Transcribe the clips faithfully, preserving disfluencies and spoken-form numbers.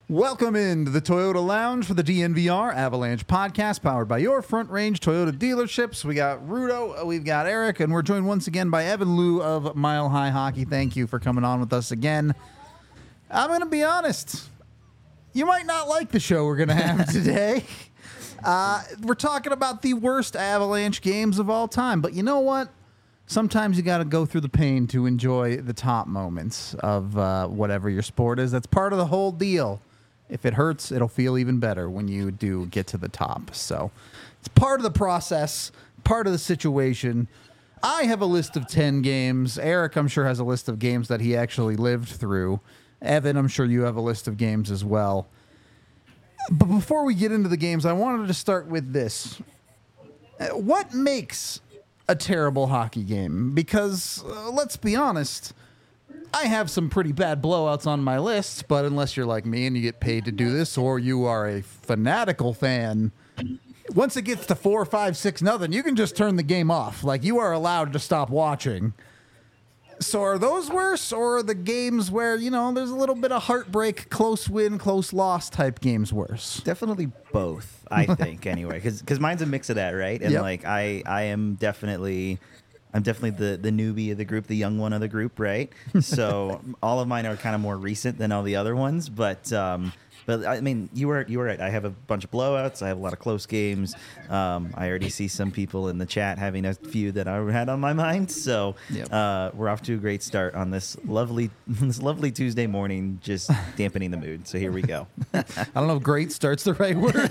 Welcome into the Toyota Lounge for the D N V R Avalanche podcast, powered by your Front Range Toyota dealerships. We got Rudo, we've got Eric, and we're joined once again by Evan Liu of Mile High Hockey. Thank you for coming on with us again. I'm going to be honest. You might not like the show we're going to have today. Uh, we're talking about the worst Avalanche games of all time, but you know what? Sometimes you got to go through the pain to enjoy the top moments of uh, whatever your sport is. That's part of the whole deal. If it hurts, it'll feel even better when you do get to the top. So it's part of the process, part of the situation. I have a list of ten games. Eric, I'm sure, has a list of games that he actually lived through. Evan, I'm sure you have a list of games as well. But before we get into the games, I wanted to start with this. What makes a terrible hockey game? Because, uh, let's be honest, I have some pretty bad blowouts on my list, but unless you're like me and you get paid to do this, or you are a fanatical fan, once it gets to four, five, six, nothing, you can just turn the game off. Like, you are allowed to stop watching. So are those worse, or are the games where, you know, there's a little bit of heartbreak, close win, close loss type games worse? Definitely both, I think, anyway, because because mine's a mix of that, right? And, yep. like, I, I am definitely... I'm definitely the, the newbie of the group, the young one of the group, right? So all of mine are kind of more recent than all the other ones, but um, but I mean, you were you were right. I have a bunch of blowouts. I have a lot of close games. Um, I already see some people in the chat having a few that I had on my mind. So yep. uh, we're off to a great start on this lovely this lovely Tuesday morning, just dampening the mood. So here we go. I don't know if "great" starts the right word.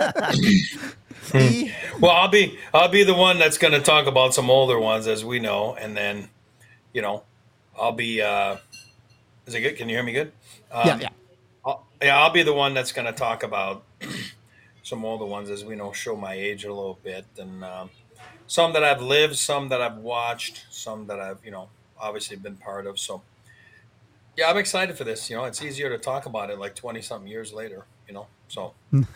Well, I'll be I'll be the one that's going to talk about some older ones, as we know, and then, you know, I'll be. Uh, is it good? Can you hear me good? Um, yeah, yeah. I'll, yeah, I'll be the one that's going to talk about some older ones, as we know, show my age a little bit, and um, some that I've lived, some that I've watched, some that I've, you know, obviously been part of. So, yeah, I'm excited for this. You know, it's easier to talk about it like twenty something years later. You know, so.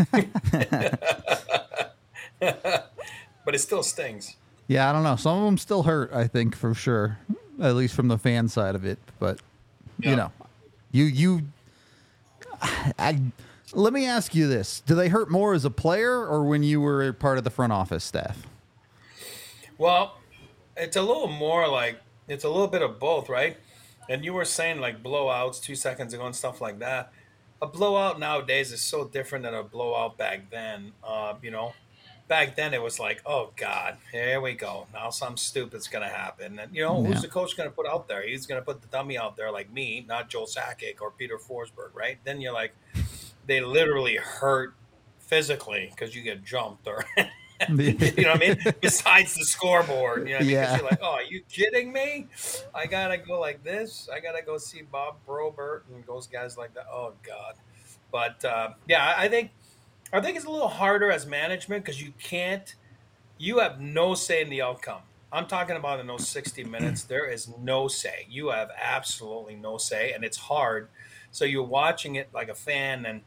But it still stings. Yeah, I don't know. Some of them still hurt, I think, for sure. At least from the fan side of it. But, yeah. you know, you, you, I, let me ask you this. Do they hurt more as a player or when you were part of the front office staff? Well, it's a little more like, it's a little bit of both, right? And you were saying like blowouts two seconds ago and stuff like that. A blowout nowadays is so different than a blowout back then. Uh, you know, back then it was like, oh God, here we go. Now something stupid's going to happen. And, you know, yeah. who's the coach going to put out there? He's going to put the dummy out there like me, not Joel Sakic or Peter Forsberg, right? Then you're like, they literally hurt physically because you get jumped or, you know what I mean? Besides the scoreboard, you know what I mean? Yeah. Because you're like, oh, are you kidding me? I got to go like this. I got to go see Bob Probert and those guys like that. Oh, God. But, uh, yeah, I think I think it's a little harder as management because you can't – you have no say in the outcome. I'm talking about in those sixty minutes. There is no say. You have absolutely no say, and it's hard. So you're watching it like a fan, and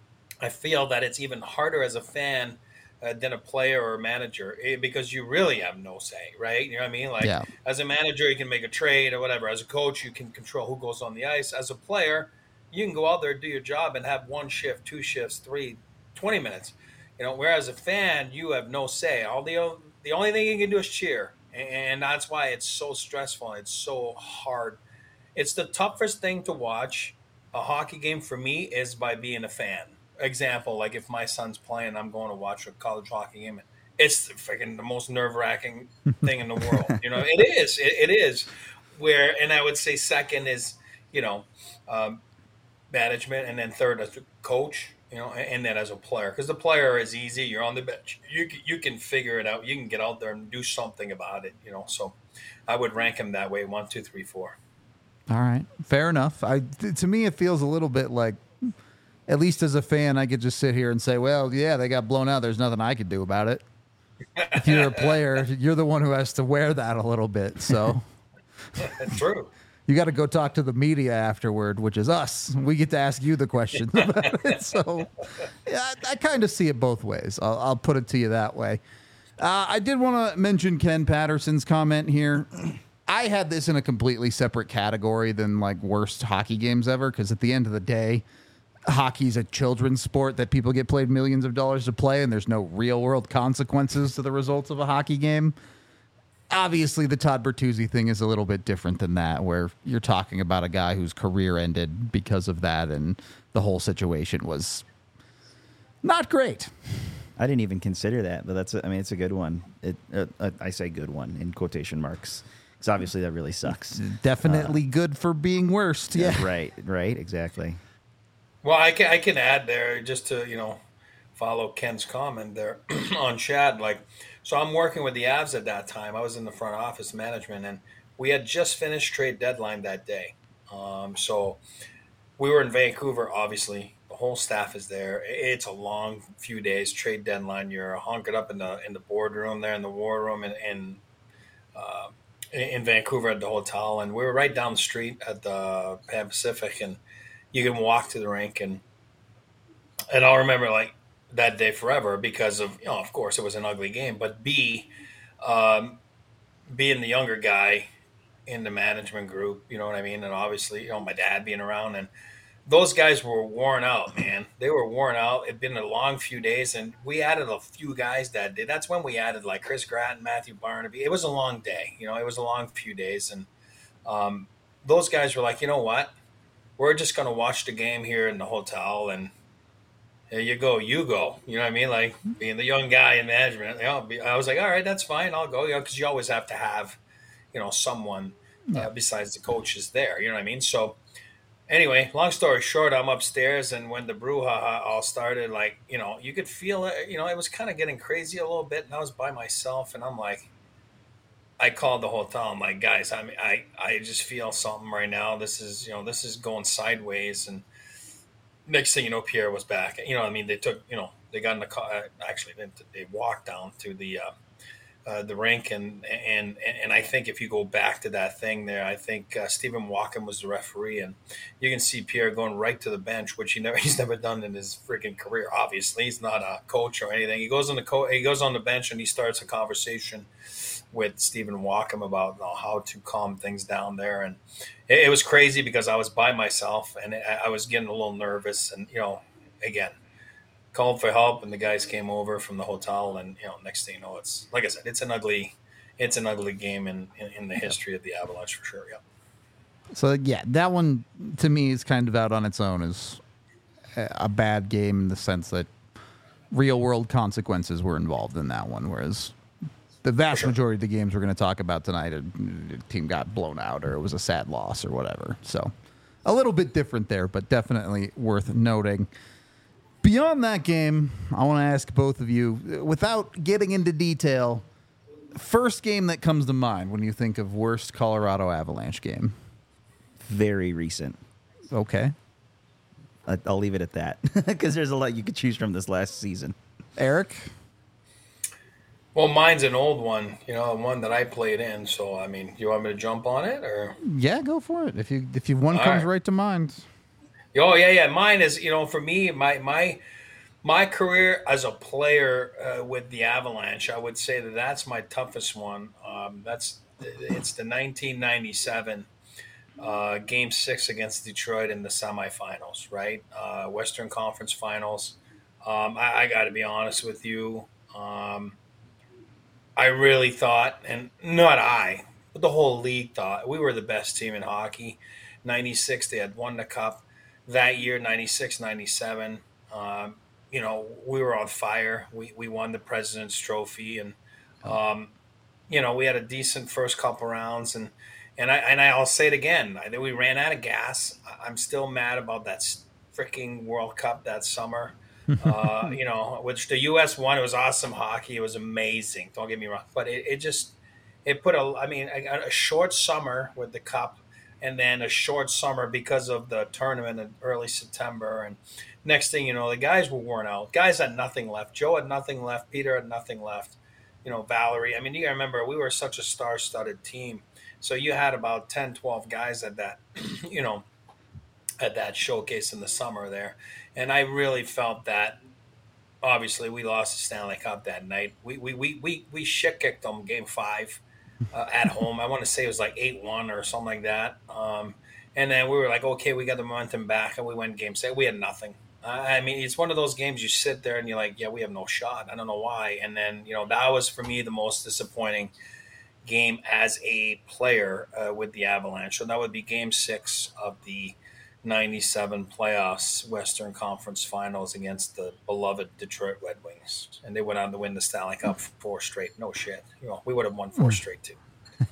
I feel that it's even harder as a fan Uh, than a player or a manager eh, because you really have no say, right? You know what I mean? Like yeah. as a manager, you can make a trade or whatever. As a coach, you can control who goes on the ice. As a player, you can go out there, do your job, and have one shift, two shifts, three, twenty minutes. You know, whereas a fan, you have no say. All the the only thing you can do is cheer, and that's why it's so stressful. It's so hard. It's the toughest thing to watch a hockey game for me is by being a fan. Example, like if my son's playing, I'm going to watch a college hockey game. It's freaking the most nerve-wracking thing in the world. You know, it is. It, it is. Where, and I would say second is, you know, um, management, and then third as a coach. You know, and, and then as a player, because the player is easy. You're on the bench. You you can figure it out. You can get out there and do something about it. You know, so I would rank him that way: one, two, three, four. All right, fair enough. I to me, it feels a little bit like. At least as a fan, I could just sit here and say, well, yeah, they got blown out. There's nothing I could do about it. If you're a player, you're the one who has to wear that a little bit. So That's true. You got to go talk to the media afterward, which is us. We get to ask you the questions about it. So yeah, I, I kind of see it both ways. I'll, I'll put it to you that way. Uh, I did want to mention Ken Patterson's comment here. I had this in a completely separate category than like worst hockey games ever, because at the end of the day, hockey's a children's sport that people get paid millions of dollars to play, and there's no real world consequences to the results of a hockey game. Obviously, the Todd Bertuzzi thing is a little bit different than that, where you're talking about a guy whose career ended because of that, and the whole situation was not great. I didn't even consider that, but that's, a, I mean, it's a good one. It, uh, uh, I say good one in quotation marks, because obviously that really sucks. Definitely uh, good for being worst. Yeah. Right, right, exactly. Well, I can, I can add there just to, you know, follow Ken's comment there on Chad. Like, so I'm working with the Avs at that time. I was in the front office management, and we had just finished trade deadline that day. Um, so we were in Vancouver, obviously. The whole staff is there. It's a long few days, trade deadline. You're hunkered up in the in the boardroom there, in the war room, and in, uh, in Vancouver at the hotel. And we were right down the street at the Pan Pacific, and you can walk to the rink. And and I'll remember, like, that day forever because of, you know, of course, it was an ugly game. But B, um, being the younger guy in the management group, you know what I mean? And obviously, you know, my dad being around, and those guys were worn out, man. They were worn out. It'd been a long few days, and we added a few guys that day. That's when we added, like, Chris Gratton, Matthew Barnaby. It was a long day. You know, it was a long few days. And um, those guys were like, you know what? We're just going to watch the game here in the hotel, and there you go, you go. You know what I mean? Like, being the young guy in management, you know, I was like, all right, that's fine. I'll go, you know, because you always have to have, you know, someone uh, besides the coaches there. You know what I mean? So, anyway, long story short, I'm upstairs, and when the brouhaha all started, like, you know, you could feel it. You know, it was kind of getting crazy a little bit, and I was by myself, and I'm like, I called the hotel. I'm like, guys, I mean, I, I just feel something right now. This is, you know, this is going sideways. And next thing you know, Pierre was back. You know, I mean, they took, you know, they got in the car. Actually, they, they walked down to the uh, uh, the rink, and and and I think if you go back to that thing there, I think uh, Stephen Walken was the referee, and you can see Pierre going right to the bench, which he never he's never done in his freaking career. Obviously, he's not a coach or anything. He goes on the co- he goes on the bench, and he starts a conversation with Stephen Walken about, you know, how to calm things down there. And it, it was crazy because I was by myself, and I, I was getting a little nervous. And, you know, again, called for help, and the guys came over from the hotel. And, you know, next thing you know, it's, like I said, it's an ugly, it's an ugly game in, in, in the history of the Avalanche for sure. Yeah. So, yeah, that one to me is kind of out on its own as a bad game in the sense that real world consequences were involved in that one. Whereas the vast sure. majority of the games we're going to talk about tonight, a team got blown out or it was a sad loss or whatever. So a little bit different there, but definitely worth noting. Beyond that game, I want to ask both of you, without getting into detail, first game that comes to mind when you think of worst Colorado Avalanche game? Very recent. Okay. I'll leave it at that because there's a lot you could choose from this last season. Eric? Well, mine's an old one, you know, one that I played in. So, I mean, you want me to jump on it, or? Yeah, go for it. If you if you one All comes right. right to mind. Oh yeah, yeah. Mine is, you know, for me, my my my career as a player uh, with the Avalanche, I would say that that's my toughest one. Um, that's it's the nineteen ninety-seven uh, Game Six against Detroit in the semifinals, right? Uh, Western Conference Finals. Um, I, I got to be honest with you. Um, I really thought, and not I, but the whole league thought, we were the best team in hockey. ninety-six, they had won the cup. That year, ninety-six, ninety-seven, um, you know, we were on fire. We we won the President's Trophy, and, um, you know, we had a decent first couple rounds. And, and, I, and I'll say it again, I think we ran out of gas. I'm still mad about that freaking World Cup that summer. uh, you know, which the U S won. It was awesome hockey. It was amazing. Don't get me wrong. But it, it just, it put a, I mean, a, a short summer with the cup, and then a short summer because of the tournament in early September. And next thing you know, the guys were worn out. Guys had nothing left. Joe had nothing left. Peter had nothing left. You know, Valerie. I mean, you gotta remember, we were such a star-studded team. So you had about ten, twelve guys at that, you know, at that showcase in the summer there. And I really felt that, obviously, we lost the Stanley Cup that night. We we we we, we shit-kicked them game five uh, at home. I want to say it was like eight one or something like that. Um, And then we were like, okay, we got the momentum back, and we went game six. We had nothing. I mean, it's one of those games you sit there and you're like, yeah, we have no shot. I don't know why. And then, you know, that was for me the most disappointing game as a player uh, with the Avalanche. So that would be game six of the ninety-seven playoffs, Western Conference Finals against the beloved Detroit Red Wings. And they went on to win the Stanley Cup four straight. No shit. You know, we would have won four straight too.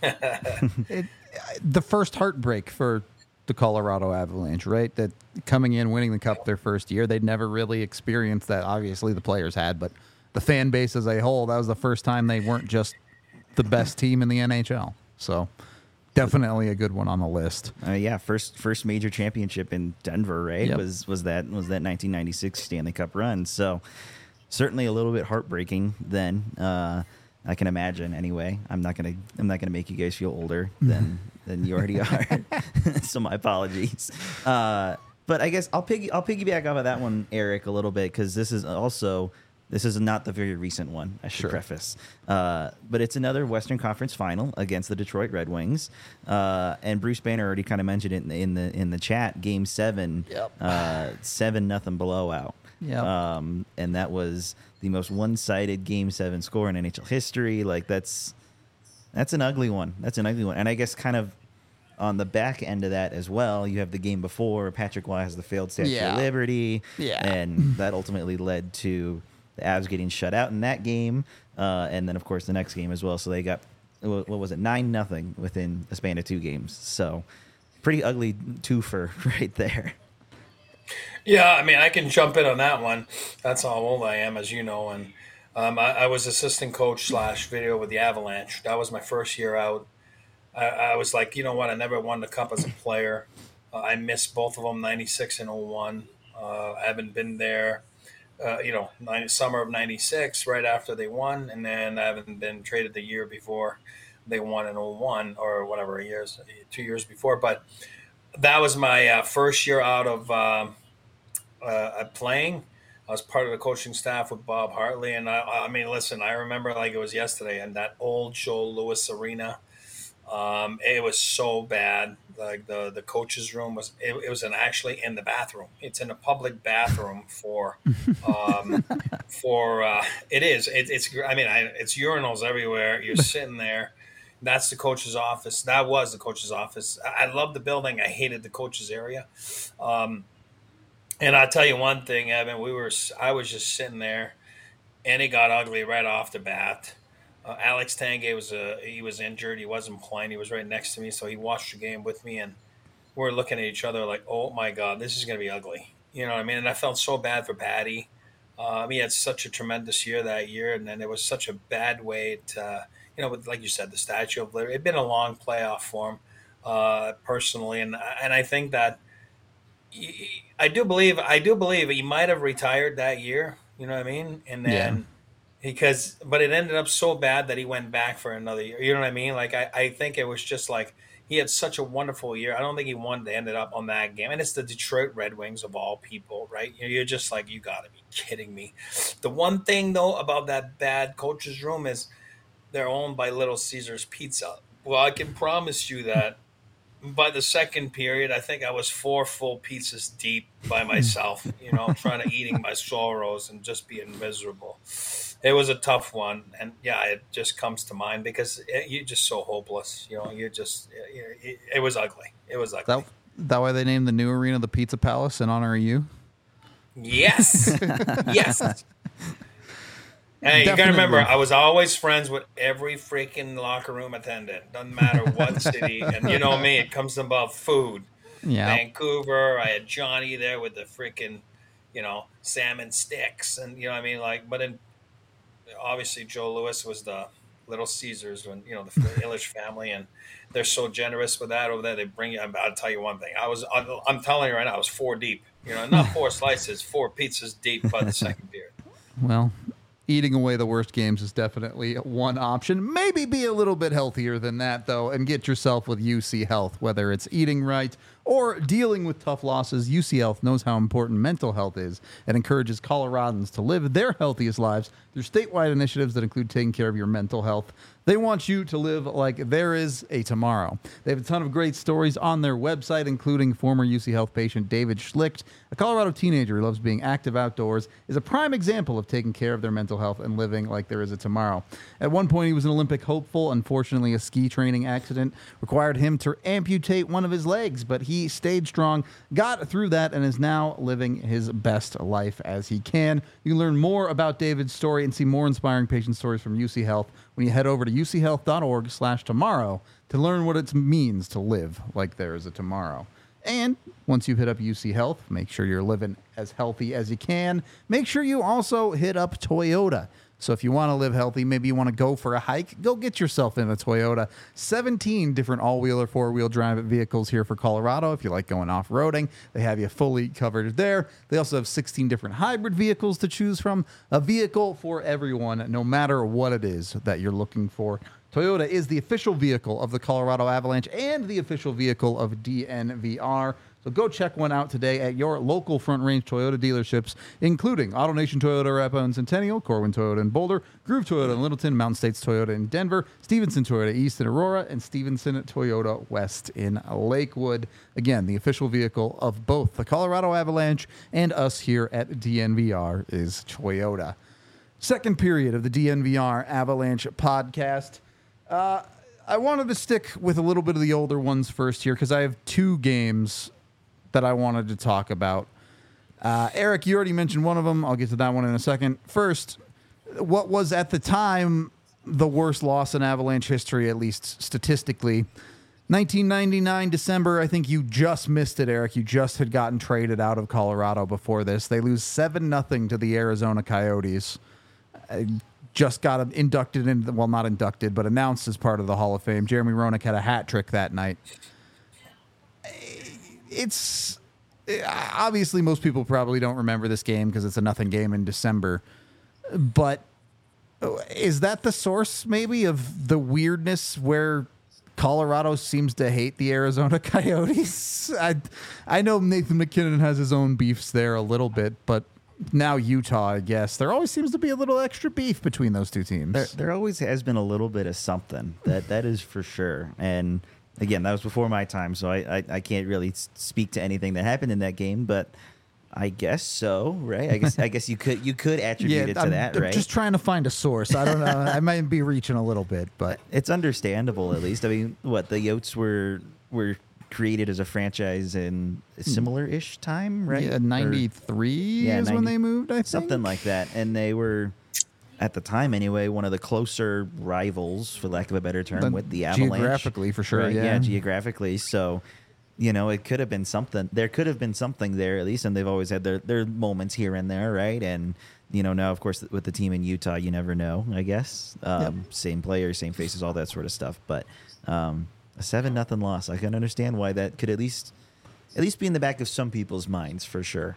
it, the first heartbreak for the Colorado Avalanche, right? That coming in, winning the Cup their first year, they'd never really experienced that. Obviously, the players had, but the fan base as a whole, that was the first time they weren't just the best team in the N H L. So definitely a good one on the list. Uh, yeah, first first major championship in Denver, right? Yep. Was was that was that nineteen ninety-six Stanley Cup run? So certainly a little bit heartbreaking then. Uh, I can imagine. Anyway, I'm not gonna I'm not gonna make you guys feel older than than you already are. So my apologies. Uh, but I guess I'll piggy I'll piggyback off of that one, Eric, a little bit, because this is also this is not the very recent one. I should Sure. preface, uh, but it's another Western Conference Final against the Detroit Red Wings, uh, and Bruce Banner already kind of mentioned it in the in the, in the chat. Game seven, Yep. uh, seven nothing blowout. Yep. Um, and that was the most one-sided Game Seven score in N H L history. Like that's that's an ugly one. That's an ugly one. And I guess kind of on the back end of that as well, you have the game before Patrick Waugh has the failed Statue Yeah. of Liberty, Yeah. and that ultimately led to the Avs getting shut out in that game, uh, and then of course the next game as well. So they got what was it nine nothing within a span of two games. So pretty ugly twofer right there. Yeah, I mean, I can jump in on that one. That's how old I am, as you know. And um, I, I was assistant coach slash video with the Avalanche. That was my first year out. I, I was like, you know what? I never won the cup as a player. Uh, I missed both of them, ninety-six and oh one. Uh, I haven't been there, uh, you know, nine, summer of ninety-six, right after they won. And then I haven't been traded the year before they won in oh one or whatever years, two years before. But that was my uh, first year out of um, uh, playing. I was part of the coaching staff with Bob Hartley. And I, I mean, listen, I remember like it was yesterday, and that old Joe Louis Arena. Um, it was so bad. Like the, the coach's room was, it, it was in actually in the bathroom. It's in a public bathroom for, um, for, uh, it is, it, it's, I mean, I, it's urinals everywhere. You're sitting there. That's the coach's office. That was the coach's office. I, I loved the building. I hated the coach's area. Um, and I'll tell you one thing, Evan, we were, I was just sitting there and it got ugly right off the bat. Uh, Alex Tanguay was uh, he was injured. He wasn't playing. He was right next to me, so he watched the game with me, and we were looking at each other like, "Oh my God, this is going to be ugly." You know what I mean? And I felt so bad for Patty. Um, he had such a tremendous year that year, and then it was such a bad way to, you know, with, like you said, the Statue of Liberty. It'd been a long playoff for him, uh, personally, and and I think that he, I do believe I do believe he might have retired that year. You know what I mean? And then. Yeah. Because, but it ended up so bad that he went back for another year. You know what I mean? Like, I, I think it was just like he had such a wonderful year. I don't think he wanted to end it up on that game. And it's the Detroit Red Wings of all people, right? You're just like, you got to be kidding me. The one thing, though, about that bad coach's room is they're owned by Little Caesars Pizza. Well, I can promise you that by the second period, I think I was four full pizzas deep by myself, you know, trying to eating my sorrows and just being miserable. It was a tough one, and yeah, it just comes to mind because it, you're just so hopeless. You know, you just it, it, it was ugly. It was ugly. That that why they named the new arena the Pizza Palace in honor of you? Yes, yes. Hey, you gotta Definitely. remember, I was always friends with every freaking locker room attendant. Doesn't matter what city, and you know me, it comes about food. Yeah. Vancouver, I had Johnny there with the freaking, you know, salmon sticks, and you know what I mean, like. But in obviously, Joe Louis was the Little Caesars, when you know the Illich family, and they're so generous with that over there. They bring you. I'll tell you one thing. I was, I'm telling you right now, I was four deep. You know, not four slices, four pizzas deep by the second period. Well, eating away the worst games is definitely one option. Maybe be a little bit healthier than that, though, and get yourself with U C Health, whether it's eating right or dealing with tough losses, U C Health knows how important mental health is and encourages Coloradans to live their healthiest lives through statewide initiatives that include taking care of your mental health. They want you to live like there is a tomorrow. They have a ton of great stories on their website, including former U C Health patient David Schlicht, a Colorado teenager who loves being active outdoors, is a prime example of taking care of their mental health and living like there is a tomorrow. At one point, he was an Olympic hopeful. Unfortunately, a ski training accident required him to amputate one of his legs, but he stayed strong, got through that, and is now living his best life as he can. You can learn more about David's story and see more inspiring patient stories from U C Health when you head over to uchealth.org slash tomorrow to learn what it means to live like there is a tomorrow. And once you hit up U C Health, make sure you're living as healthy as you can. Make sure you also hit up Toyota. So if you want to live healthy, maybe you want to go for a hike, go get yourself in a Toyota. seventeen different all-wheel or four-wheel drive vehicles here for Colorado. If you like going off-roading, they have you fully covered there. They also have sixteen different hybrid vehicles to choose from. A vehicle for everyone, no matter what it is that you're looking for. Toyota is the official vehicle of the Colorado Avalanche and the official vehicle of D N V R. So go check one out today at your local Front Range Toyota dealerships, including AutoNation Toyota Arapahoe and Centennial, Corwin Toyota in Boulder, Groove Toyota in Littleton, Mountain States Toyota in Denver, Stevenson Toyota East in Aurora, and Stevenson Toyota West in Lakewood. Again, the official vehicle of both the Colorado Avalanche and us here at D N V R is Toyota. Second period of the D N V R Avalanche podcast. Uh, I wanted to stick with a little bit of the older ones first here because I have two games that I wanted to talk about. Uh, Eric, you already mentioned one of them. I'll get to that one in a second. First, what was at the time the worst loss in Avalanche history, at least statistically? nineteen ninety-nine, December, I think you just missed it, Eric. You just had gotten traded out of Colorado before this. They lose seven nothing to the Arizona Coyotes. Uh, just got inducted in, well, not inducted, but announced as part of the Hall of Fame. Jeremy Roenick had a hat trick that night. It's obviously most people probably don't remember this game because it's a nothing game in December. But is that the source maybe of the weirdness where Colorado seems to hate the Arizona Coyotes? I I know Nathan MacKinnon has his own beefs there a little bit, but now Utah, I guess. There always seems to be a little extra beef between those two teams. There, there always has been a little bit of something. That that is for sure. And again, that was before my time, so I, I, I can't really speak to anything that happened in that game, but I guess so, right? I guess I guess you could you could attribute yeah, it to I'm, that, I'm right? just trying to find a source. I don't know. I might be reaching a little bit, but it's understandable at least. I mean, what the Yotes were were created as a franchise in a similar-ish time, right? Yeah, ninety-three yeah, is ninety, when they moved, I think. Something like that. And they were, at the time anyway, one of the closer rivals, for lack of a better term, the, with the Avalanche. Geographically, for sure, right? yeah. Yeah, geographically. So, you know, it could have been something. There could have been something there, at least, and they've always had their, their moments here and there, right? And, you know, now, of course, with the team in Utah, you never know, I guess. Um, yep. Same players, same faces, all that sort of stuff. But um, a seven nothing loss, I can understand why that could at least at least be in the back of some people's minds, for sure.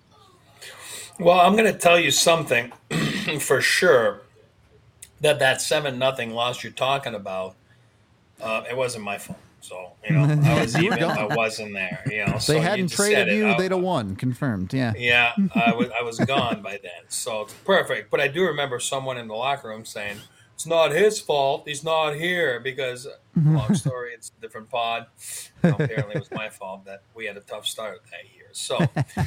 Well, I'm going to tell you something for sure, that that seven nothing loss you're talking about, uh, it wasn't my fault. So, you know, I was even, I wasn't there, you know. They so hadn't you traded you, I, they'd have won, confirmed, yeah. Yeah, I was, I was gone by then, so it's perfect. But I do remember someone in the locker room saying, it's not his fault, he's not here, because, long story, it's a different pod. You know, apparently it was my fault that we had a tough start that year. So,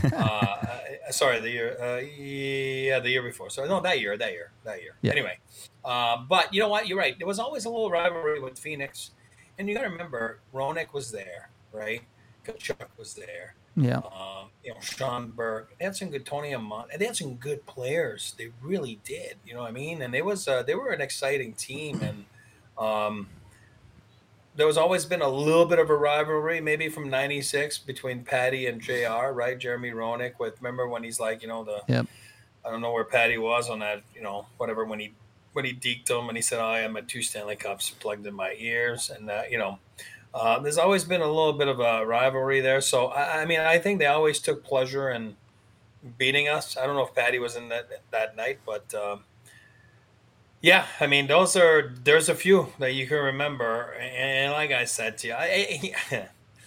uh, sorry, the year, uh, yeah, the year before. Sorry, no, that year, that year, that year. Yeah. Anyway, uh, but you know what? You're right. There was always a little rivalry with Phoenix. And you got to remember, Roenick was there, right? Kachuk was there. Yeah. Um, you know, Sean Burke. They had some good Tony Amon. They had some good players. They really did. You know what I mean? And they was uh, they were an exciting team. And um, there was always been a little bit of a rivalry, maybe from ninety-six between Patty and J R, right? Jeremy Roenick. With remember when he's like, you know, the yep. I don't know where Patty was on that, you know, whatever when he. when he deked him and he said, oh, I had two Stanley Cups plugged in my ears. And, uh, you know, uh, there's always been a little bit of a rivalry there. So, I, I mean, I think they always took pleasure in beating us. I don't know if Patty was in that that night, but, um, yeah, I mean, those are – there's a few that you can remember. And like I said to you, I, I,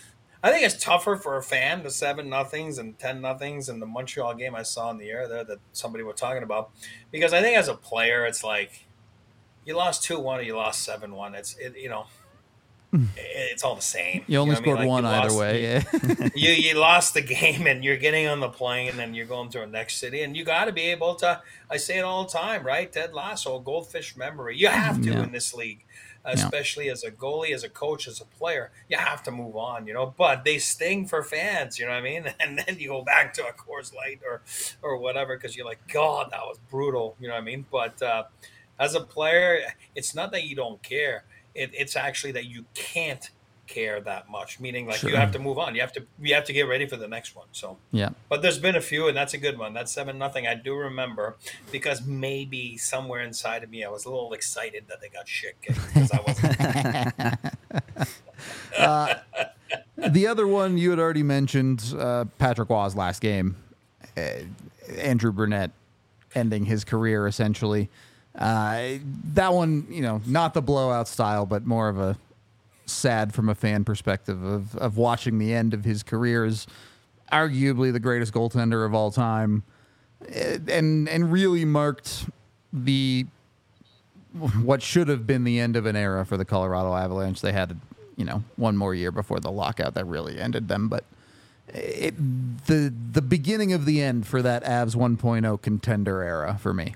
I think it's tougher for a fan, the seven nothings and ten nothings and the Montreal game I saw in the air there that somebody was talking about, because I think as a player, it's like you lost two one or you lost seven one. It's it, you know, it's all the same. You only know what I scored mean? Like, one you either lost- way. Yeah. you you lost the game and you're getting on the plane and you're going to the next city and you got to be able to. I say it all the time, right? Ted Lasso, goldfish memory. You have to Yeah. in this league, especially as a goalie, as a coach, as a player. You have to move on, you know. But they sting for fans, you know what I mean? And then you go back to a Coors Light or or whatever because you're like, God, that was brutal, you know what I mean? But uh, as a player, it's not that you don't care. It, it's actually that you can't care that much, meaning like Sure. you have to move on. You have to you have to get ready for the next one. So Yeah. but there's been a few, and that's a good one. That's seven nothing. I do remember because maybe somewhere inside of me I was a little excited that they got shit kicked because I wasn't. The other one you had already mentioned, uh, Patrick Waugh's last game, uh, Andrew Brunette ending his career essentially. Uh, that one, you know, not the blowout style, but more of a sad from a fan perspective of, of watching the end of his career as arguably the greatest goaltender of all time, and and really marked the what should have been the end of an era for the Colorado Avalanche. They had, you know, one more year before the lockout that really ended them, but it the the beginning of the end for that Avs one point oh contender era for me.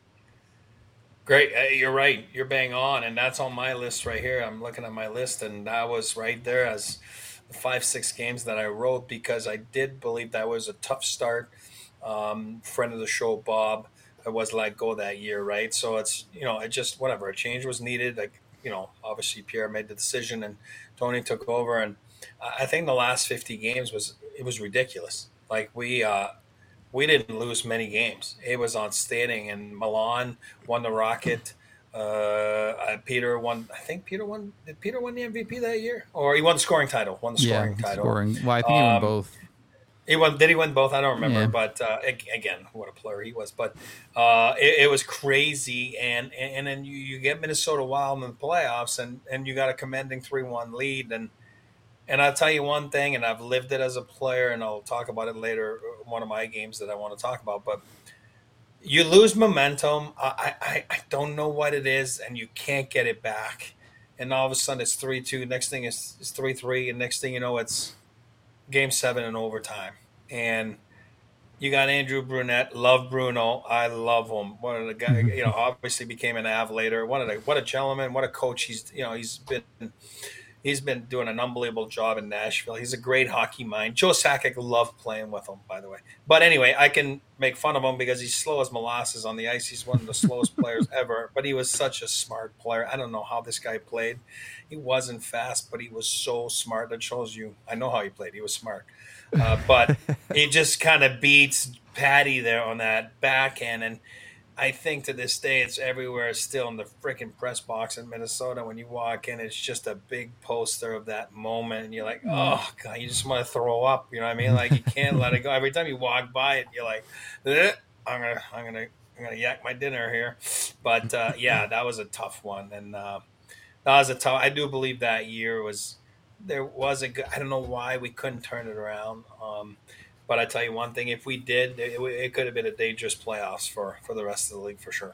Great. Uh, You're right. You're bang on. And that's on my list right here. I'm looking at my list, and that was right there as the five, six games that I wrote because I did believe that was a tough start. Um, friend of the show, Bob, I was let go that year, right? So it's, you know, it just, whatever. A change was needed. Like, you know, obviously Pierre made the decision and Tony took over. And I I think the last fifty games was, it was ridiculous. Like we, uh, we didn't lose many games. It was outstanding. And Milan won the Rocket. Uh, uh, Peter won. I think Peter won. Did Peter win the M V P that year, or he won the scoring title? Won the scoring yeah, title. scoring. Well, I think he won Um, both. He won. Did he win both? I don't remember. Yeah. But uh, ag- again, what a player he was. But uh, it, it was crazy. And and, and then you, you get Minnesota Wild in the playoffs, and, and you got a commanding three one lead. And and I'll tell you one thing, and I've lived it as a player, and I'll talk about it later. One of my games that I want to talk about, but you lose momentum. I, I, I don't know what it is, and you can't get it back. And all of a sudden, it's three two. Next thing is it's three three, and next thing you know, it's game seven in overtime. And you got Andrew Brunette. Love Bruno. I love him. One of the guys, you know, obviously became an Av later. One of the, what a gentleman. What a coach. He's, you know, he's been. He's been doing an unbelievable job in Nashville. He's a great hockey mind. Joe Sakic loved playing with him, by the way. But anyway, I can make fun of him because he's slow as molasses on the ice. He's one of the slowest players ever. But he was such a smart player. I don't know how this guy played. He wasn't fast, but he was so smart. That shows you. I know how he played. He was smart. Uh, but he just kind of beats Patty there on that backhand. And I think to this day, it's everywhere still in the freaking press box in Minnesota. When you walk in, it's just a big poster of that moment. And you're like, oh, God, you just want to throw up. You know what I mean? Like, you can't let it go. Every time you walk by it, you're like, eh, I'm going to, I'm going to, I'm going to yak my dinner here. But, uh, yeah, that was a tough one. And uh, that was a tough, I do believe that year was, there was a good, I don't know why we couldn't turn it around. Um, But I tell you one thing: if we did, it, it could have been a dangerous playoffs for, for the rest of the league for sure.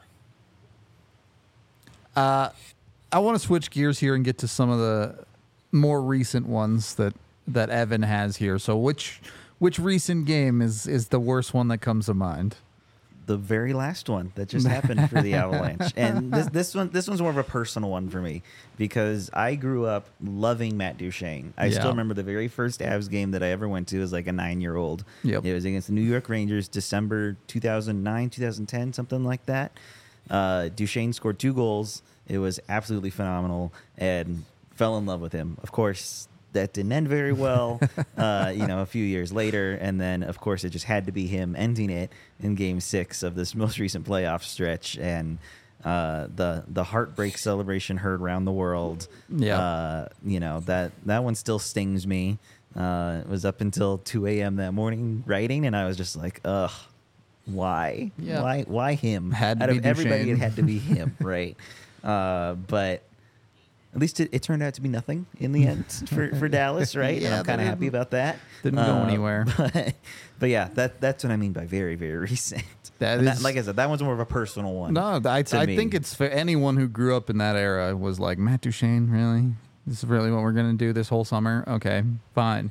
Uh, I want to switch gears here and get to some of the more recent ones that, that Evan has here. So, which which recent game is is the worst one that comes to mind? The very last one that just happened for the Avalanche, and this this one this one's more of a personal one for me because I grew up loving Matt Duchene. I Yeah. still remember the very first Avs game that I ever went to as like a nine year old. Yep. It was against the New York Rangers, December two thousand nine, two thousand ten, something like that. Uh, Duchene scored two goals. It was absolutely phenomenal, and fell in love with him. Of course, that didn't end very well, uh, you know, a few years later. And then, of course, it just had to be him ending it in game six of this most recent playoff stretch. And uh, the the heartbreak celebration heard around the world. Yeah. Uh, you know, that, that one still stings me. Uh, it was up until two a.m. that morning writing, and I was just like, ugh, why? Yeah. Why Why him? Had to Out be of everybody, Duchene. it had to be him, right? Uh, but... at least it, it turned out to be nothing in the end for, for Dallas, right? Yeah, and I'm kind of they happy about that. Didn't go anywhere. But, but yeah, that that's what I mean by very, very recent. That And is- like I said, that one's more of a personal one. No, I, to I me. think it's for anyone who grew up in that era was like, Matt Duchene, really? This is really what we're going to do this whole summer? Okay, fine.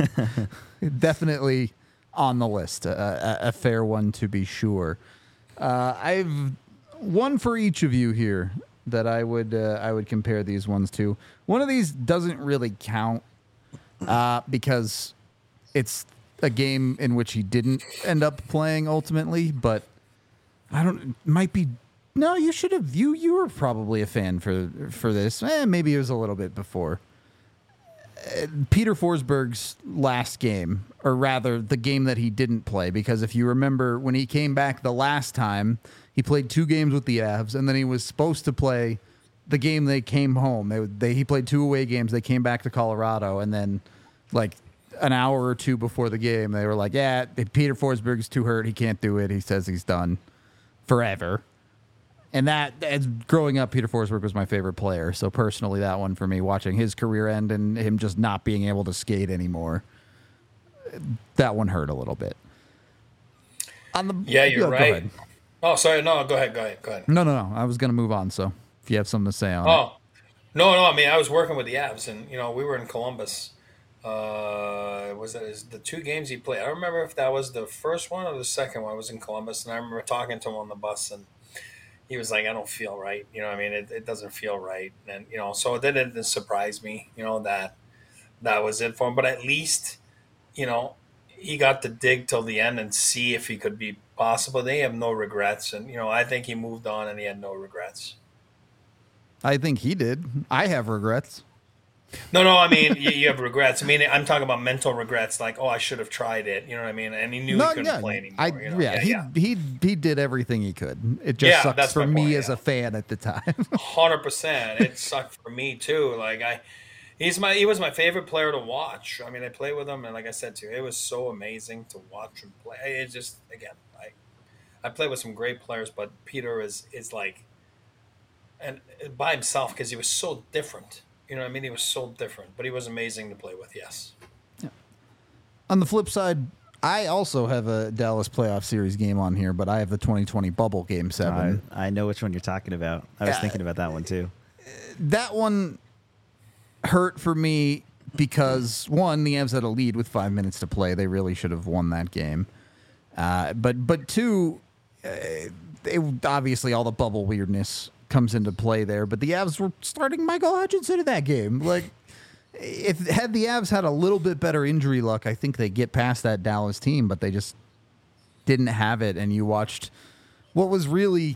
Definitely on the list, a, a, a fair one to be sure. Uh, I've one for each of you here that I would uh, I would compare these ones to. One of these doesn't really count uh, because it's a game in which he didn't end up playing ultimately, but I don't. It might be. No, you should have. You you were probably a fan for for this. Eh, maybe it was a little bit before. Uh, Peter Forsberg's last game, or rather, the game that he didn't play, because if you remember when he came back the last time, he played two games with the Avs, and then he was supposed to play the game they came home. They they he played two away games. They came back to Colorado, and then like an hour or two before the game, they were like, "Yeah, Peter Forsberg's too hurt. He can't do it. He says he's done forever." And that, as growing up, Peter Forsberg was my favorite player. So personally, that one for me, watching his career end and him just not being able to skate anymore, that one hurt a little bit. On the Yeah, you're go right. ahead. Oh, sorry. No, go ahead. Go ahead. Go ahead. No, no, no. I was going to move on. So if you have something to say on it. Oh, no, no. I mean, I was working with the Avs, and you know, we were in Columbus. Uh, was that is the two games he played? I don't remember if that was the first one or the second one. I was in Columbus, and I remember talking to him on the bus, and he was like, "I don't feel right." You know, what I mean, it, it doesn't feel right, and you know, so it didn't surprise me. You know that that was it for him, but at least, you know, he got to dig till the end and see if he could be possible. They have no regrets, and you know, I think he moved on and he had no regrets. I think he did. I have regrets. No, no, I mean, you, you have regrets. I mean, I'm talking about mental regrets, like, oh, I should have tried it. You know what I mean? And he knew No, he couldn't yeah, play anymore. I, you know? yeah, he, yeah, he he did everything he could. It just Yeah, sucks that's for my me point, as yeah. a fan at the time. hundred percent. It sucked for me too. Like I, he's my he was my favorite player to watch. I mean, I played with him, and like I said to you, it was so amazing to watch him play. It just again, I, I played with some great players, but Peter is is like, and by himself because he was so different. You know what I mean? He was so different, but he was amazing to play with. Yes. On the flip side, I also have a Dallas playoff series game on here, but I have the twenty twenty bubble game seven. I, I know which one you're talking about. I was Uh, thinking about that one too. That one hurt for me because, one, the Avs had a lead with five minutes to play. They really should have won that game. Uh, but, but two, uh, it, obviously all the bubble weirdness comes into play there. But the Avs were starting Michael Hutchinson in that game. Like, if had the Avs had a little bit better injury luck, I think they get past that Dallas team, but they just didn't have it. And you watched what was really,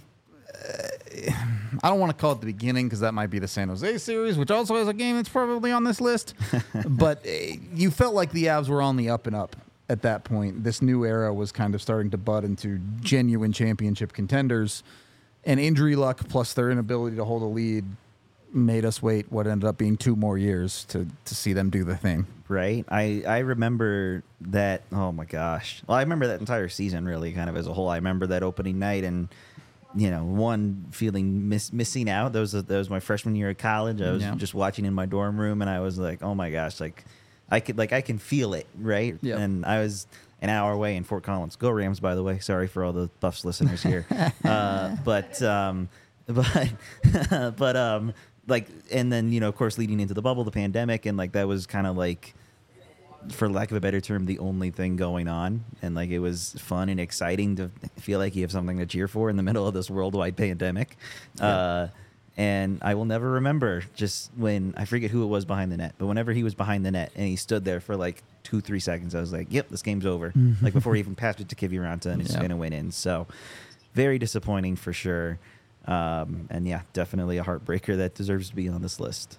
uh, I don't want to call it the beginning because that might be the San Jose series, which also has a game that's probably on this list. But uh, you felt like the Avs were on the up and up at that point. This new era was kind of starting to bud into genuine championship contenders. And injury luck plus their inability to hold a lead made us wait what ended up being two more years to, to see them do the thing. Right. I, I remember that. Oh my gosh. Well, I remember that entire season really kind of as a whole. I remember that opening night and, you know, one feeling miss, missing out. That was, that was my freshman year of college. I was Yeah. just watching in my dorm room and I was like, oh my gosh, like I could, like, I can feel it. Right. Yep. And I was an hour away in Fort Collins. Go Rams, by the way. Sorry for all the Buffs listeners here. uh, but, um, but, but, um, like, and then, you know, of course, leading into the bubble, the pandemic, and like that was kind of like, for lack of a better term, the only thing going on. And like it was fun and exciting to feel like you have something to cheer for in the middle of this worldwide pandemic. Yeah. Uh, and I will never remember just when, I forget who it was behind the net, but whenever he was behind the net and he stood there for like two, three seconds, I was like, yep, this game's over. Like before he even passed it to Kiviranta and it's Yep. going to win in. So very disappointing for sure. Um, and yeah, definitely a heartbreaker that deserves to be on this list.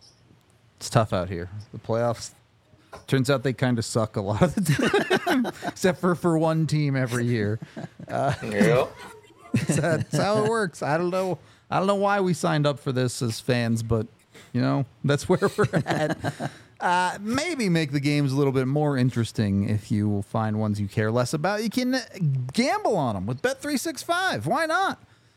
It's tough out here. The playoffs, turns out they kind of suck a lot of the time, except for for one team every year. Uh, Yeah. that's, that's how it works. I don't know. I don't know why we signed up for this as fans, but you know that's where we're at. Uh, maybe make the games a little bit more interesting if you find ones you care less about. You can gamble on them with Bet three sixty-five. Why not?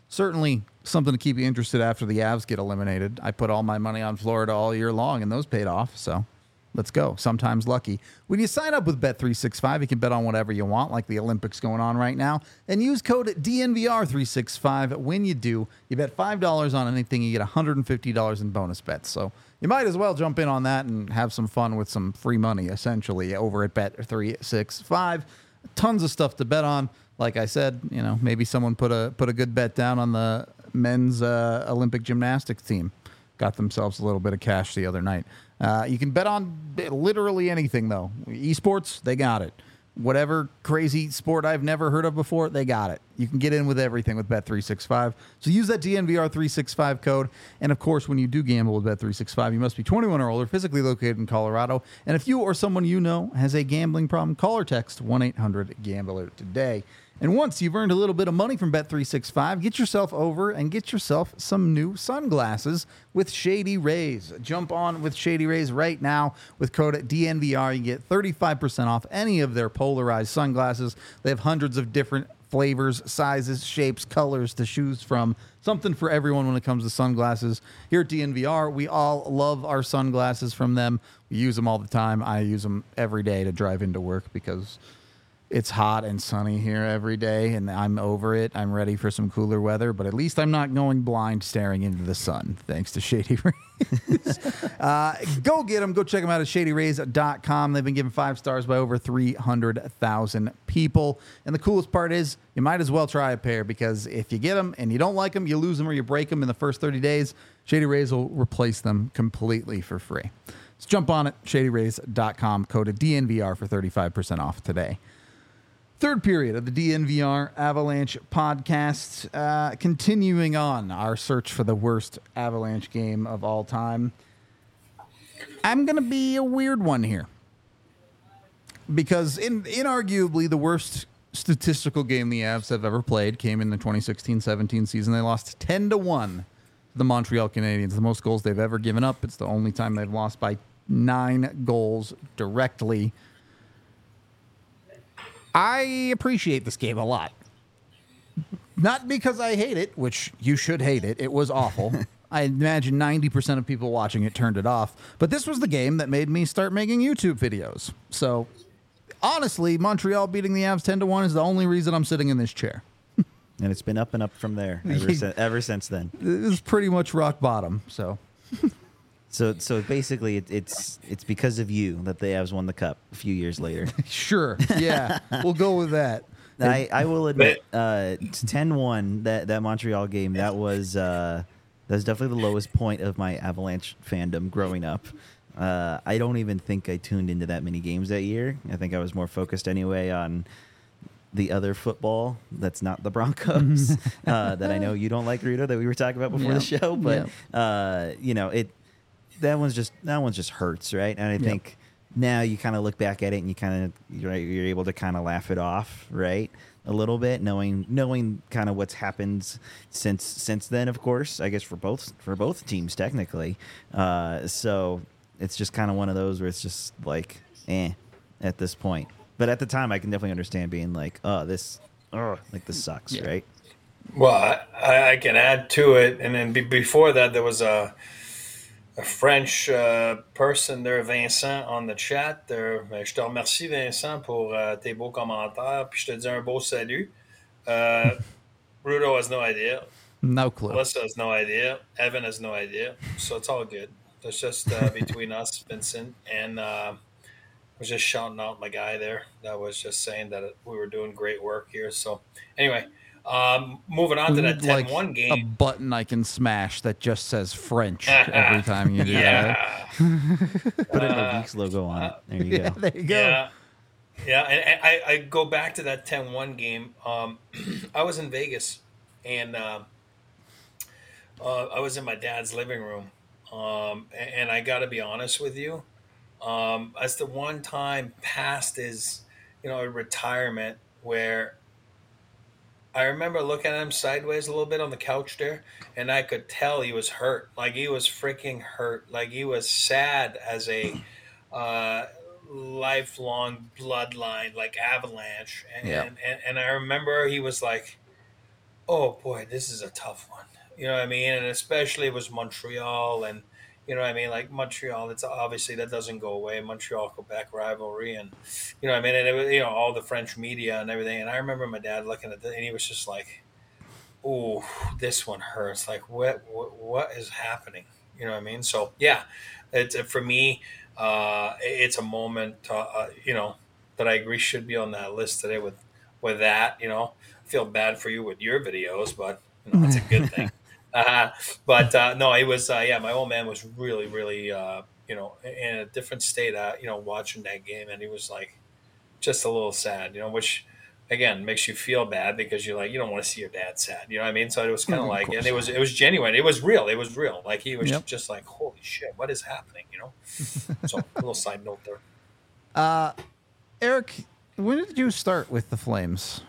certainly something to keep you interested after the Avs get eliminated. I put all my money on Florida all year long, and those paid off. So let's go. Sometimes lucky. When you sign up with Bet three sixty-five, you can bet on whatever you want, like the Olympics going on right now, and use code D N V R three sixty-five. When you do, you bet five dollars on anything, you get one hundred fifty dollars in bonus bets. So you might as well jump in on that and have some fun with some free money, essentially, over at Bet three sixty-five. Tons of stuff to bet on. Like I said, you know, maybe someone put a put a good bet down on the men's uh, Olympic gymnastics team. Got themselves a little bit of cash the other night. Uh, you can bet on literally anything, though. Esports, they got it. Whatever crazy sport I've never heard of before, they got it. You can get in with everything with Bet three sixty-five. So use that D N V R three sixty-five code. And, of course, when you do gamble with Bet three sixty-five, you must be twenty-one or older, physically located in Colorado. And if you or someone you know has a gambling problem, call or text one eight hundred gambler today. And once you've earned a little bit of money from Bet three sixty-five, get yourself over and get yourself some new sunglasses with Shady Rays. Jump on with Shady Rays right now with code D N V R. You get thirty-five percent off any of their polarized sunglasses. They have hundreds of different flavors, sizes, shapes, colors to choose from. Something for everyone when it comes to sunglasses. Here at D N V R, we all love our sunglasses from them. We use them all the time. I use them every day to drive into work because it's hot and sunny here every day, and I'm over it. I'm ready for some cooler weather, but at least I'm not going blind staring into the sun, thanks to Shady Rays. uh, go get them. Go check them out at shady rays dot com. They've been given five stars by over three hundred thousand people. And the coolest part is you might as well try a pair, because if you get them and you don't like them, you lose them or you break them in the first thirty days, Shady Rays will replace them completely for free. So jump on it, shady rays dot com, code D N V R for thirty-five percent off today. Third period of the D N V R Avalanche podcast. Uh, continuing on our search for the worst Avalanche game of all time. I'm going to be a weird one here, because in inarguably the worst statistical game the Avs have ever played came in the twenty sixteen seventeen season. They lost ten to one to the Montreal Canadiens, the most goals they've ever given up. It's the only time they've lost by nine goals directly. I appreciate this game a lot. Not because I hate it, which you should hate it. It was awful. I imagine ninety percent of people watching it turned it off. But this was the game that made me start making YouTube videos. So, honestly, Montreal beating the Avs ten to one is the only reason I'm sitting in this chair. And it's been up and up from there ever, si- ever since then. It was pretty much rock bottom, so... So, so basically, it, it's it's because of you that the Avs won the cup a few years later. Sure, yeah, we'll go with that. I, I will admit, uh, ten one, that, that Montreal game, that was uh, that was definitely the lowest point of my Avalanche fandom growing up. Uh, I don't even think I tuned into that many games that year. I think I was more focused anyway on the other football that's not the Broncos, uh, that I know you don't like, Rudo, that we were talking about before Yep. the show. But, Yep. uh, you know, it... That one's just that one's just hurts, right? And I Yep. think now you kind of look back at it and you kind of you're, you're able to kind of laugh it off, right? A little bit, knowing knowing kind of what's happened since since then. Of course, I guess for both for both teams technically. Uh, so it's just kind of one of those where it's just like, eh, at this point. But at the time, I can definitely understand being like, oh, this, oh, like this sucks, Yeah. right? Well, I, I can add to it, and then be, before that, there was a. A French uh, person there, Vincent, on the chat. There, ben, je te remercie, Vincent, pour uh, tes beaux commentaires. Puis je te dis un beau salut. Uh, Rudo has no idea. No clue. Melissa has no idea. Evan has no idea. So it's all good. It's just uh, between us, Vincent. And uh, I was just shouting out my guy there. That was just saying that we were doing great work here. So anyway, um, moving on to that ten one like game. a button I can smash that just says French every time you do Yeah. Put an Uh, Obeeks logo on it. There you that. go. Yeah, there you go. Yeah. Yeah, and, and I, I go back to that ten one game. Um, I was in Vegas, and uh, uh, I was in my dad's living room. Um, and, and I got to be honest with you, um, that's the one time past his, you know, retirement where I remember looking at him sideways a little bit on the couch there, and I could tell he was hurt. Like, he was freaking hurt. Like, he was sad as a uh, lifelong bloodline, like Avalanche. And, Yeah. and, and, and I remember he was like, Oh boy, this is a tough one. You know what I mean? And especially it was Montreal, and you know what I mean. Like Montreal, it's obviously that doesn't go away. Montreal Quebec rivalry, and you know what I mean. And it was, you know, all the French media and everything. And I remember my dad looking at it, and he was just like, "Oh, this one hurts. Like what, what, what is happening?" You know what I mean? So yeah, it's for me. Uh, it's a moment, uh, uh, you know, that I agree should be on that list today. With with that, you know, I feel bad for you with your videos, but you know, it's a good thing. Uh, but uh, no, it was uh, yeah. My old man was really, really, uh, you know, in a different state. Uh, you know, watching that game, and he was like just a little sad. You know, which again makes you feel bad because you're like you don't want to see your dad sad. You know what I mean? So it was kind of like, and it was it was genuine. It was real. It was real. Like he was Yep. just like, holy shit, what is happening? You know. So a little side note there. Uh, Eric, when did you start with the Flames?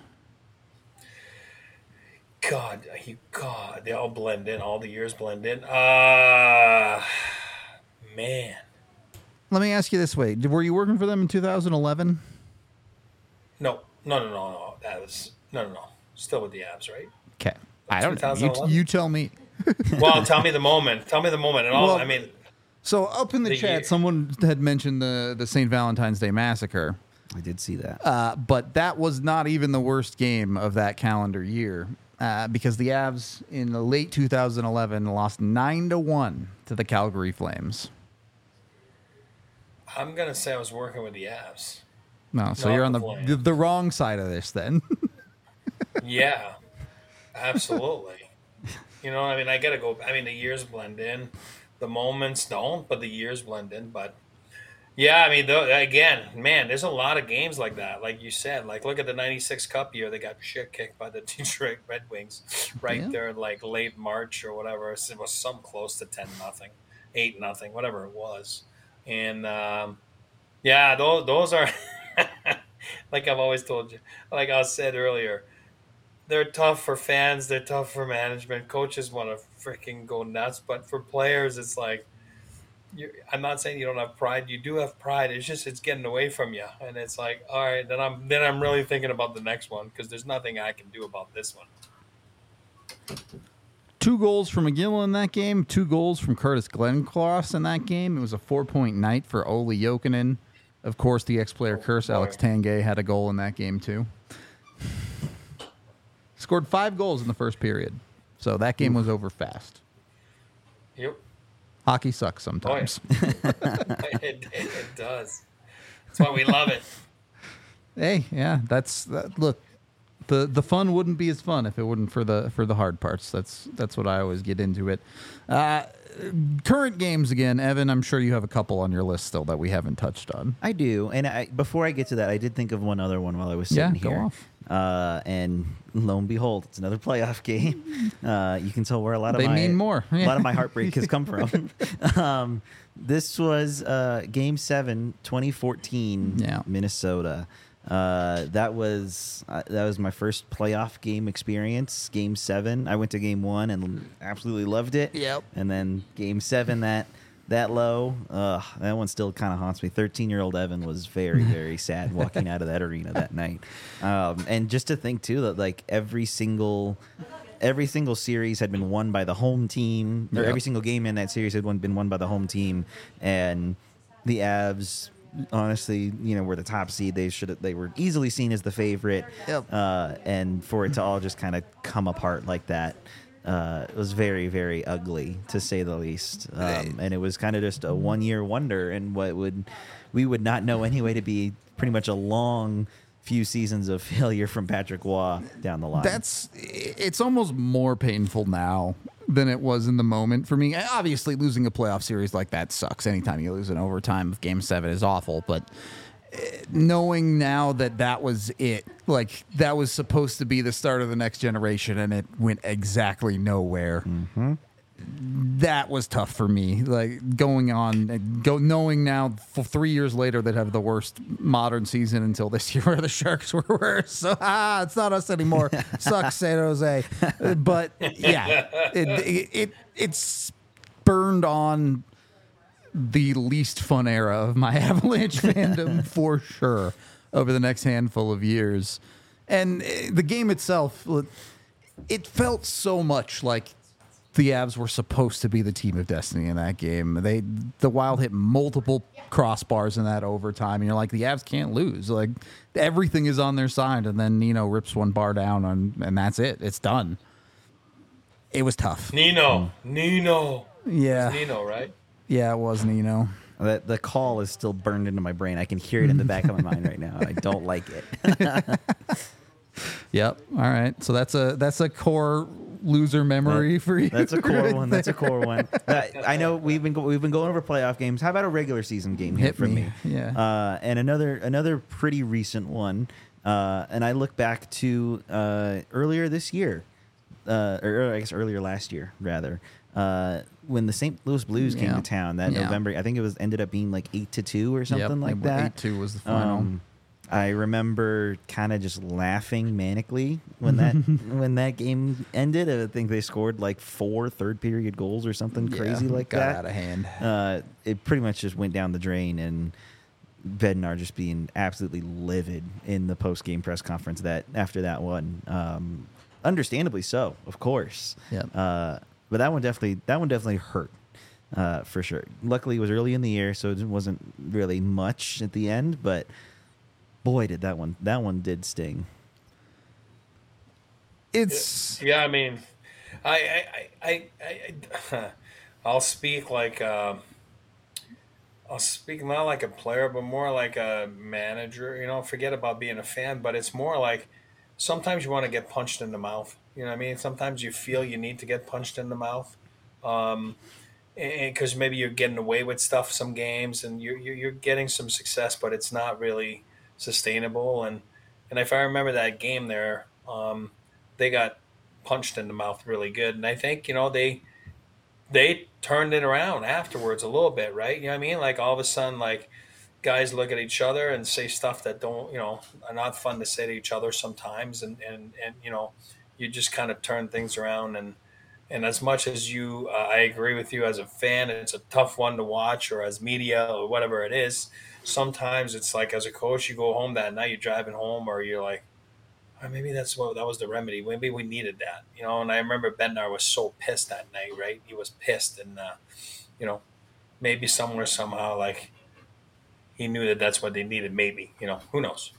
God, you God, they all blend in. All the years blend in. Uh man. Let me ask you this way: were you working for them in two thousand eleven? No, no, no, no, no. That was no, no, no. Still with the abs, right? Okay, I don't know. You, twenty eleven? you tell me. Well, tell me the moment. Tell me the moment. And all. Well, I mean, So up in the, The chat, year- someone had mentioned the the Saint Valentine's Day massacre, I did see that. uh, but that was not even the worst game of that calendar year uh, because the Avs in the late two thousand eleven lost nine to one to the Calgary Flames. I'm gonna say I was working with the abs. No, so Not you're on the the, Flames. the the wrong side of this then. Yeah, absolutely. You know, I mean, I gotta go. I mean, the years blend in, the moments don't, but the years blend in. But yeah, I mean, though, again, man, there's a lot of games like that. Like you said, like look at the ninety-six Cup year; they got shit kicked by the Detroit Red Wings right Yeah. there, like late March or whatever. It was some close to ten nothing, eight nothing, whatever it was. And um, yeah, those those are like I've always told you, like I said earlier. They're tough for fans. They're tough for management. Coaches want to freaking go nuts, but for players, it's like you're, I'm not saying you don't have pride. You do have pride. It's just it's getting away from you, and it's like, all right, then I'm then I'm really thinking about the next one because there's nothing I can do about this one. Two goals from McGill in that game. Two goals from Curtis Glencross in that game. It was a four-point night for Olli Jokinen. Of course, the ex-player Oh, curse, boy. Alex Tanguay, had a goal in that game too. Scored five goals in the first period. So that game was over fast. Yep, Hockey sucks sometimes. it, it, it does. That's why we love it. Hey, yeah, that's that, look. The the fun wouldn't be as fun if it wouldn't for the for the hard parts. That's that's what I always get into it. Uh, current games again, Evan. I'm sure you have a couple on your list still that we haven't touched on. I do, and I, before I get to that, I did think of one other one while I was Yeah, sitting go here. off. Uh, and lo and behold, it's another playoff game. Uh, you can tell where a lot of They my mean more. a lot of my heartbreak has come from. um, this was uh, Game Seven, twenty fourteen, Yeah. Minnesota. Uh, that was uh, that was my first playoff game experience. Game Seven, I went to Game One and absolutely loved it. Yep. And then Game Seven, that that low, uh, that one still kind of haunts me. Thirteen-year-old Evan was very very sad walking out of that arena that night. Um, and just to think too that like every single. Every single series had been won by the home team, or Yep. every single game in that series had won, been won by the home team, and the Avs, honestly, you know, were the top seed. They should they were easily seen as the favorite, Yep. uh, and for it to all just kind of come apart like that, uh, it was very very ugly to say the least. Um, and it was kind of just a one year wonder, and what would we would not know anyway to be pretty much a long few seasons of failure from Patrick Waugh down the line. That's it's almost more painful now than it was in the moment for me. Obviously, losing a playoff series like that sucks. Anytime you lose in overtime of Game Seven is awful, but uh, knowing now that that was it, like that was supposed to be the start of the next generation, and it went exactly nowhere. Mm-hmm. That was tough for me. Like going on, go knowing now for three years later that have the worst modern season until this year, where the Sharks were worse. So ah, it's not us anymore. Sucks, San Jose. Uh, But yeah, it, it it it's burned on the least fun era of my Avalanche fandom for sure over the next handful of years. And uh, the game itself, it felt so much like the Avs were supposed to be the team of destiny in that game. They the Wild hit multiple crossbars in that overtime, and you're like, the Avs can't lose. Like everything is on their side, and then Nino rips one bar down, on, and that's it. It's done. It was tough. Nino, Nino, Yeah, It's Nino, right? yeah, it was Nino. The, the call is still burned into my brain. I can hear it in the back of my mind right now. I don't like it. Yep. All right. So that's a that's a core loser memory That- for you. That's a core right one. That's a there. core one. That- I know we've been go- we've been going over playoff games. How about a regular season game here Hit for me. me? Yeah. Uh, and another another pretty recent one. Uh, and I look back to uh, earlier this year, uh, or I guess earlier last year rather, uh, when the Saint Louis Blues came Yeah. to town that Yeah. November. I think it was ended up being like eight to two or something Yep, like it- that. eight two was the final. Um, I remember kind of just laughing manically when that when that game ended. I think they scored like four third period goals or something crazy Yeah, like got that. out of hand. Uh, it pretty much just went down the drain, and Bednar just being absolutely livid in the post game press conference that after that one. Um, understandably so, of course. Yep. Uh, but that one definitely that one definitely hurt. Uh, for sure. Luckily, it was early in the year, so it wasn't really much at the end. But boy, did that one that one did sting. It's Yeah, I mean, I, I, I, I, I I'll speak like, um, I'll speak not like a player, but more like a manager. You know, forget about being a fan, but it's more like sometimes you want to get punched in the mouth. You know what I mean? Sometimes you feel you need to get punched in the mouth, um, because maybe you're getting away with stuff some games, and you're you're you're getting some success, but it's not really sustainable. And and if I remember that game there, um, they got punched in the mouth really good, and I think you know they they turned it around afterwards a little bit, right? You know what I mean? Like all of a sudden, like guys look at each other and say stuff that don't, you know, are not fun to say to each other sometimes, and and and you know, you just kind of turn things around. And and as much as you, uh, I agree with you as a fan, it's a tough one to watch, or as media or whatever it is. Sometimes it's like as a coach, you go home that night, you're driving home, or you're like, oh, maybe that's what that was the remedy. Maybe we needed that, you know. And I remember Bednar was so pissed that night, right? He was pissed, and uh, you know, maybe somewhere somehow like he knew that that's what they needed. Maybe, you know, who knows?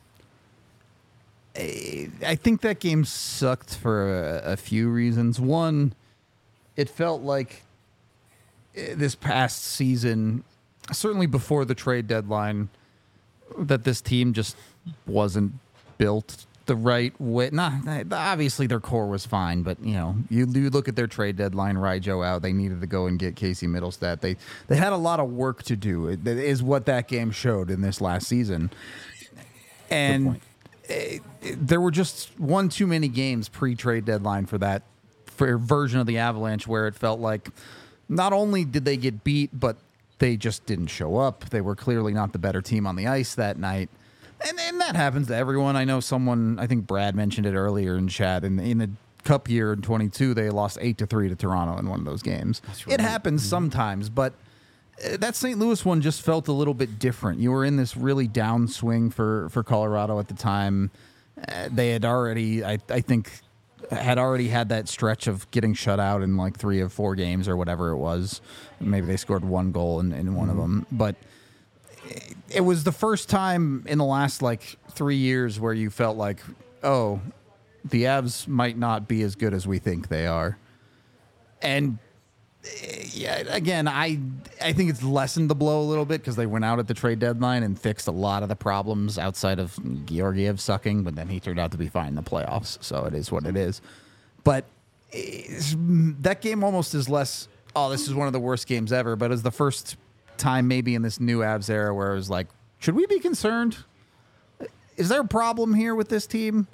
I think that game sucked for a, a few reasons. One, it felt like eh, this past season, certainly before the trade deadline, that this team just wasn't built the right way. Nah, obviously their core was fine, but you know, you do look at their trade deadline. Rijo out, they needed to go and get Casey Middlestat. They they had a lot of work to do. It, it is what that game showed in this last season, and it, it, there were just one too many games pre-trade deadline for that for version of the Avalanche where it felt like not only did they get beat, but they just didn't show up. They were clearly not the better team on the ice that night. And, and that happens to everyone. I know someone, I think Brad mentioned it earlier in chat. In, in the Cup year in twenty-two, they lost eight to three to Toronto in one of those games. right. It happens Mm-hmm. sometimes, but uh, that Saint Louis one just felt a little bit different. You were in this really downswing for, for Colorado at the time. Uh, they had already, I, I think, had already had that stretch of getting shut out in like three of four games or whatever it was. Maybe they scored one goal in, in one Mm-hmm. of them. But it was the first time in the last like three years where you felt like, oh, the Avs might not be as good as we think they are. And eh, yeah, again, I I think it's lessened the blow a little bit because they went out at the trade deadline and fixed a lot of the problems outside of Georgiev sucking, but then he turned out to be fine in the playoffs, so it is what it is. But it's, that game almost is less, oh, this is one of the worst games ever, but it's the first time maybe in this new Avs era where it was like, should we be concerned? Is there a problem here with this team?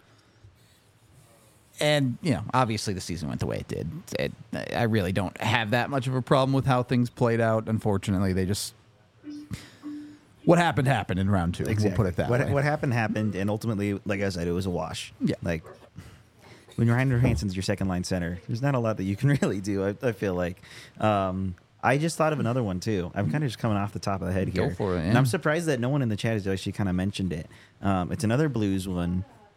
And, you know, obviously the season went the way it did. It, I really don't have that much of a problem with how things played out. Unfortunately, they just... What happened, happened in round two. Exactly. We'll put it that what, way. What happened happened, and ultimately, like I said, it was a wash. Yeah. Like when Reiner Hansen's your second line center, there's not a lot that you can really do. I, I feel like. Um, I just thought of another one too. I'm kind of just coming off the top of the head Go here. for it, And yeah. I'm surprised that no one in the chat has actually kind of mentioned it. Um, it's another Blues one.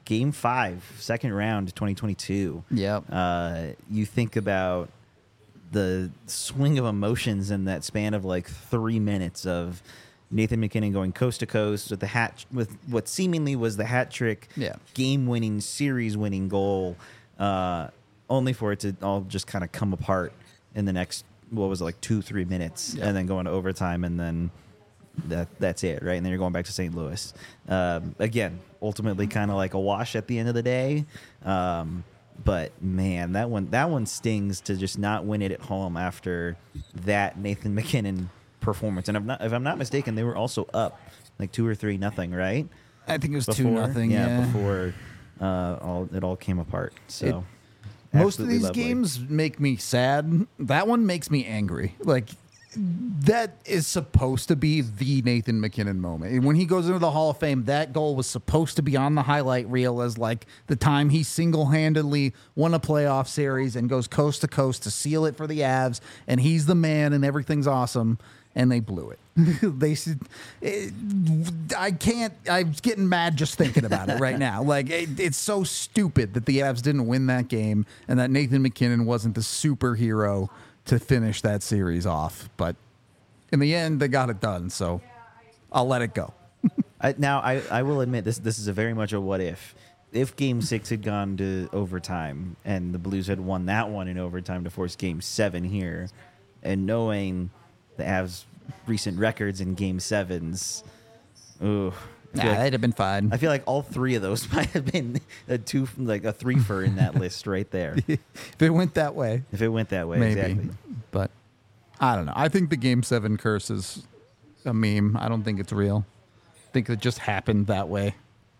Game five, second round, twenty twenty-two. Yep. Uh, you think about the swing of emotions in that span of like three minutes of Nathan MacKinnon going coast to coast with the hat with what seemingly was the hat trick, Yeah. game-winning, series-winning goal, uh, only for it to all just kind of come apart in the next what was it, like two, three minutes, Yeah. and then go into overtime, and then that that's it, right? And then you're going back to Saint Louis. Um, again, ultimately, kind of like a wash at the end of the day. Um, but man, that one that one stings to just not win it at home after that Nathan MacKinnon performance. And if, not, if I'm not mistaken, they were also up like two or three nothing, right? I think it was two Before? nothing. Yeah, Yeah. before uh, all it all came apart. So Most of absolutely these lovely. games make me sad. That one makes me angry. Like, that is supposed to be the Nathan MacKinnon moment. And when he goes into the Hall of Fame, that goal was supposed to be on the highlight reel as like the time he single-handedly won a playoff series and goes coast to coast to seal it for the Avs, and he's the man and everything's awesome, and they blew it. they s- it, I can't I'm getting mad just thinking about it right now. Like, it, it's so stupid that the Avs didn't win that game and that Nathan MacKinnon wasn't the superhero to finish that series off. But in the end, they got it done, so I'll let it go. I, now, I, I will admit this. This is a very much a what if. If Game Six had gone to overtime and the Blues had won that one in overtime to force Game Seven here, and knowing the Avs' recent records in Game Sevens, ooh, I Nah, feel like- that'd have been fine. I feel like all three of those might have been a two, like a three-fer in that list right there. If it went that way, If it went that way, maybe. exactly. But I don't know. I think the Game seven curse is a meme. I don't think it's real. I think it just happened that way.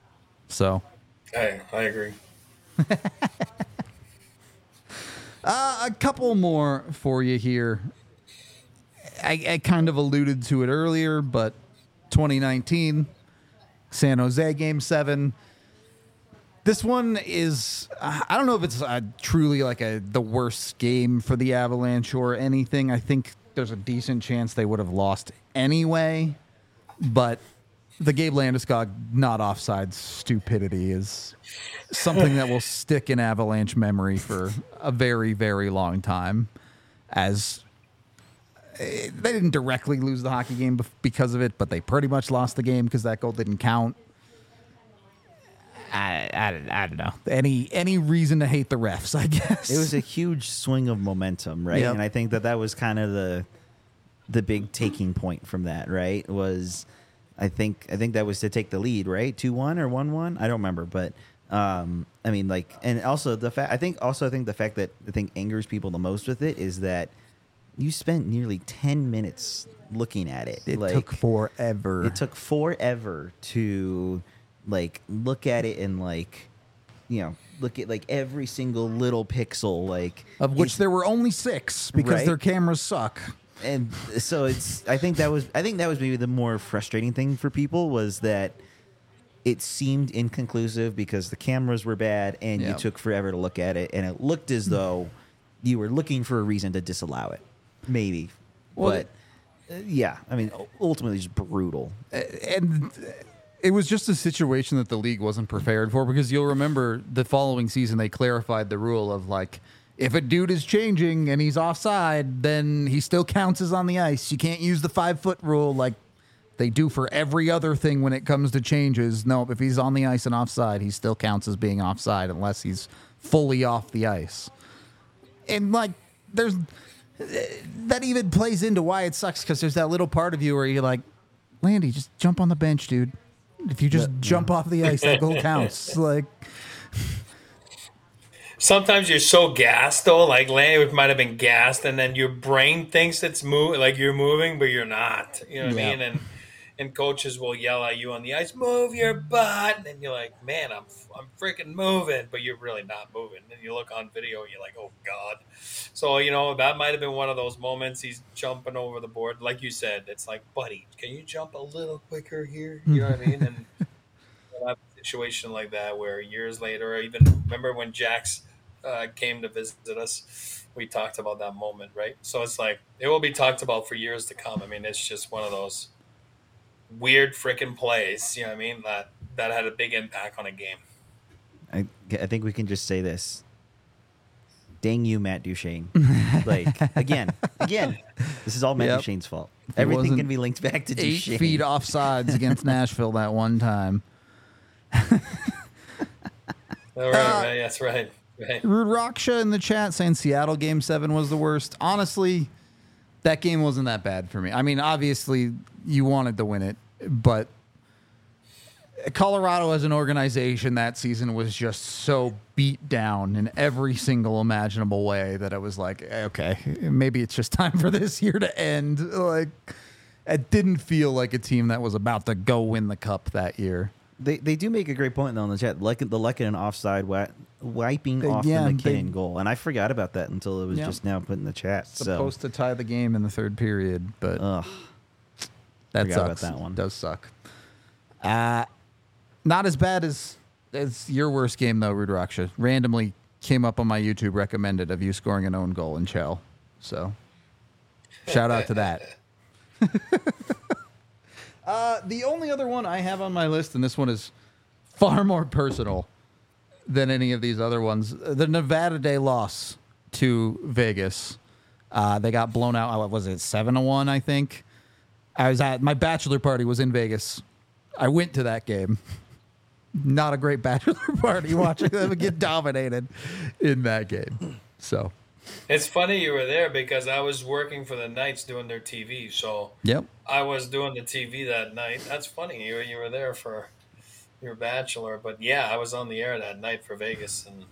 So, I I agree. uh, a couple more for you here. I, I kind of alluded to it earlier, but twenty nineteen, San Jose Game seven. This one is, uh, I don't know if it's uh, truly like a the worst game for the Avalanche or anything. I think there's a decent chance they would have lost anyway. But the Gabe Landeskog not offside stupidity is something that will stick in Avalanche memory for a very, very long time. As eh, they didn't directly lose the hockey game bef- because of it, but they pretty much lost the game because that goal didn't count. I, I, I don't know. Any any reason to hate the refs, I guess. It was a huge swing of momentum, right? Yep. And I think that that was kind of the the big taking point from that, right? Was I think I think that was to take the lead, right? two one or one one? I don't remember, but um I mean, like, and also the fact I think also I think the fact that I think angers people the most with it is that you spent nearly ten minutes looking at it. It like, took forever. It took forever to like look at it and like, you know, look at like every single little pixel, like of which is- there were only six because Right. their cameras suck. and so it's I think that was I think that was maybe the more frustrating thing for people was that it seemed inconclusive because the cameras were bad and you Yep. took forever to look at it, and it looked as though you were looking for a reason to disallow it, maybe. Well, but uh, yeah, I mean, ultimately just brutal. And it was just a situation that the league wasn't prepared for, because you'll remember the following season they clarified the rule of like, if a dude is changing and he's offside, then he still counts as on the ice. You can't use the five foot rule like they do for every other thing when it comes to changes. No, if he's on the ice and offside, he still counts as being offside unless he's fully off the ice. And like, there's that even plays into why it sucks, because there's that little part of you where you're like, Landy, just jump on the bench, dude. If you just jump off the ice, that goal counts. Like, Sometimes you're so gassed though, like Lanny might have been gassed, and then your brain thinks it's move like you're moving, but you're not. You know what Yeah. I mean? And and coaches will yell at you on the ice, "Move your butt," and you're like, "Man, I'm I'm freaking moving," but you're really not moving. And you look on video, and you're like, "Oh God." So you know that might have been one of those moments. He's jumping over the board, like you said. It's like, buddy, can you jump a little quicker here? You know what I mean? And you'll have a situation like that where years later, or even remember when Jax uh, came to visit us, we talked about that moment, right? So it's like it will be talked about for years to come. I mean, it's just one of those weird freaking plays, you know what I mean? That that had a big impact on a game. I think we can just say this. Dang you, Matt Duchene. Like, again, again, this is all Matt Yep. Duchene's fault. It Everything wasn't can be linked back to Eight Duchene. feet offsides against Nashville that one time. All right, right, that's right. Right. Rude Raksha in the chat saying Seattle game seven was the worst. Honestly, that game wasn't that bad for me. I mean, obviously you wanted to win it, but Colorado as an organization that season was just so beat down in every single imaginable way that I was like, okay, maybe it's just time for this year to end. Like, it didn't feel like a team that was about to go win the cup that year. They they do make a great point though in the chat. Like the Lehkonen offside wi- wiping They- off yeah, the McKinnon they- goal, and I forgot about that until it was Yeah. just now put in the chat. Supposed to tie the game in the third period, but So, ugh, that forgot about sucks. that one. It does suck. Uh, not as bad as as your worst game though, Rudraksha. Randomly came up on my YouTube recommended of you scoring an own goal in Chell. So shout out to that. uh, the only other one I have on my list, and this one is far more personal than any of these other ones, the Nevada Day loss to Vegas. Uh, they got blown out. What was it, seven to one? I think. I was at my bachelor party was in Vegas. I went to that game. Not a great bachelor party watching them get dominated in that game. So, It's funny you were there because I was working for the Knights doing their T V. So yep. I was doing the T V that night. That's funny. You, you were there for your bachelor. But yeah, I was on the air that night for Vegas and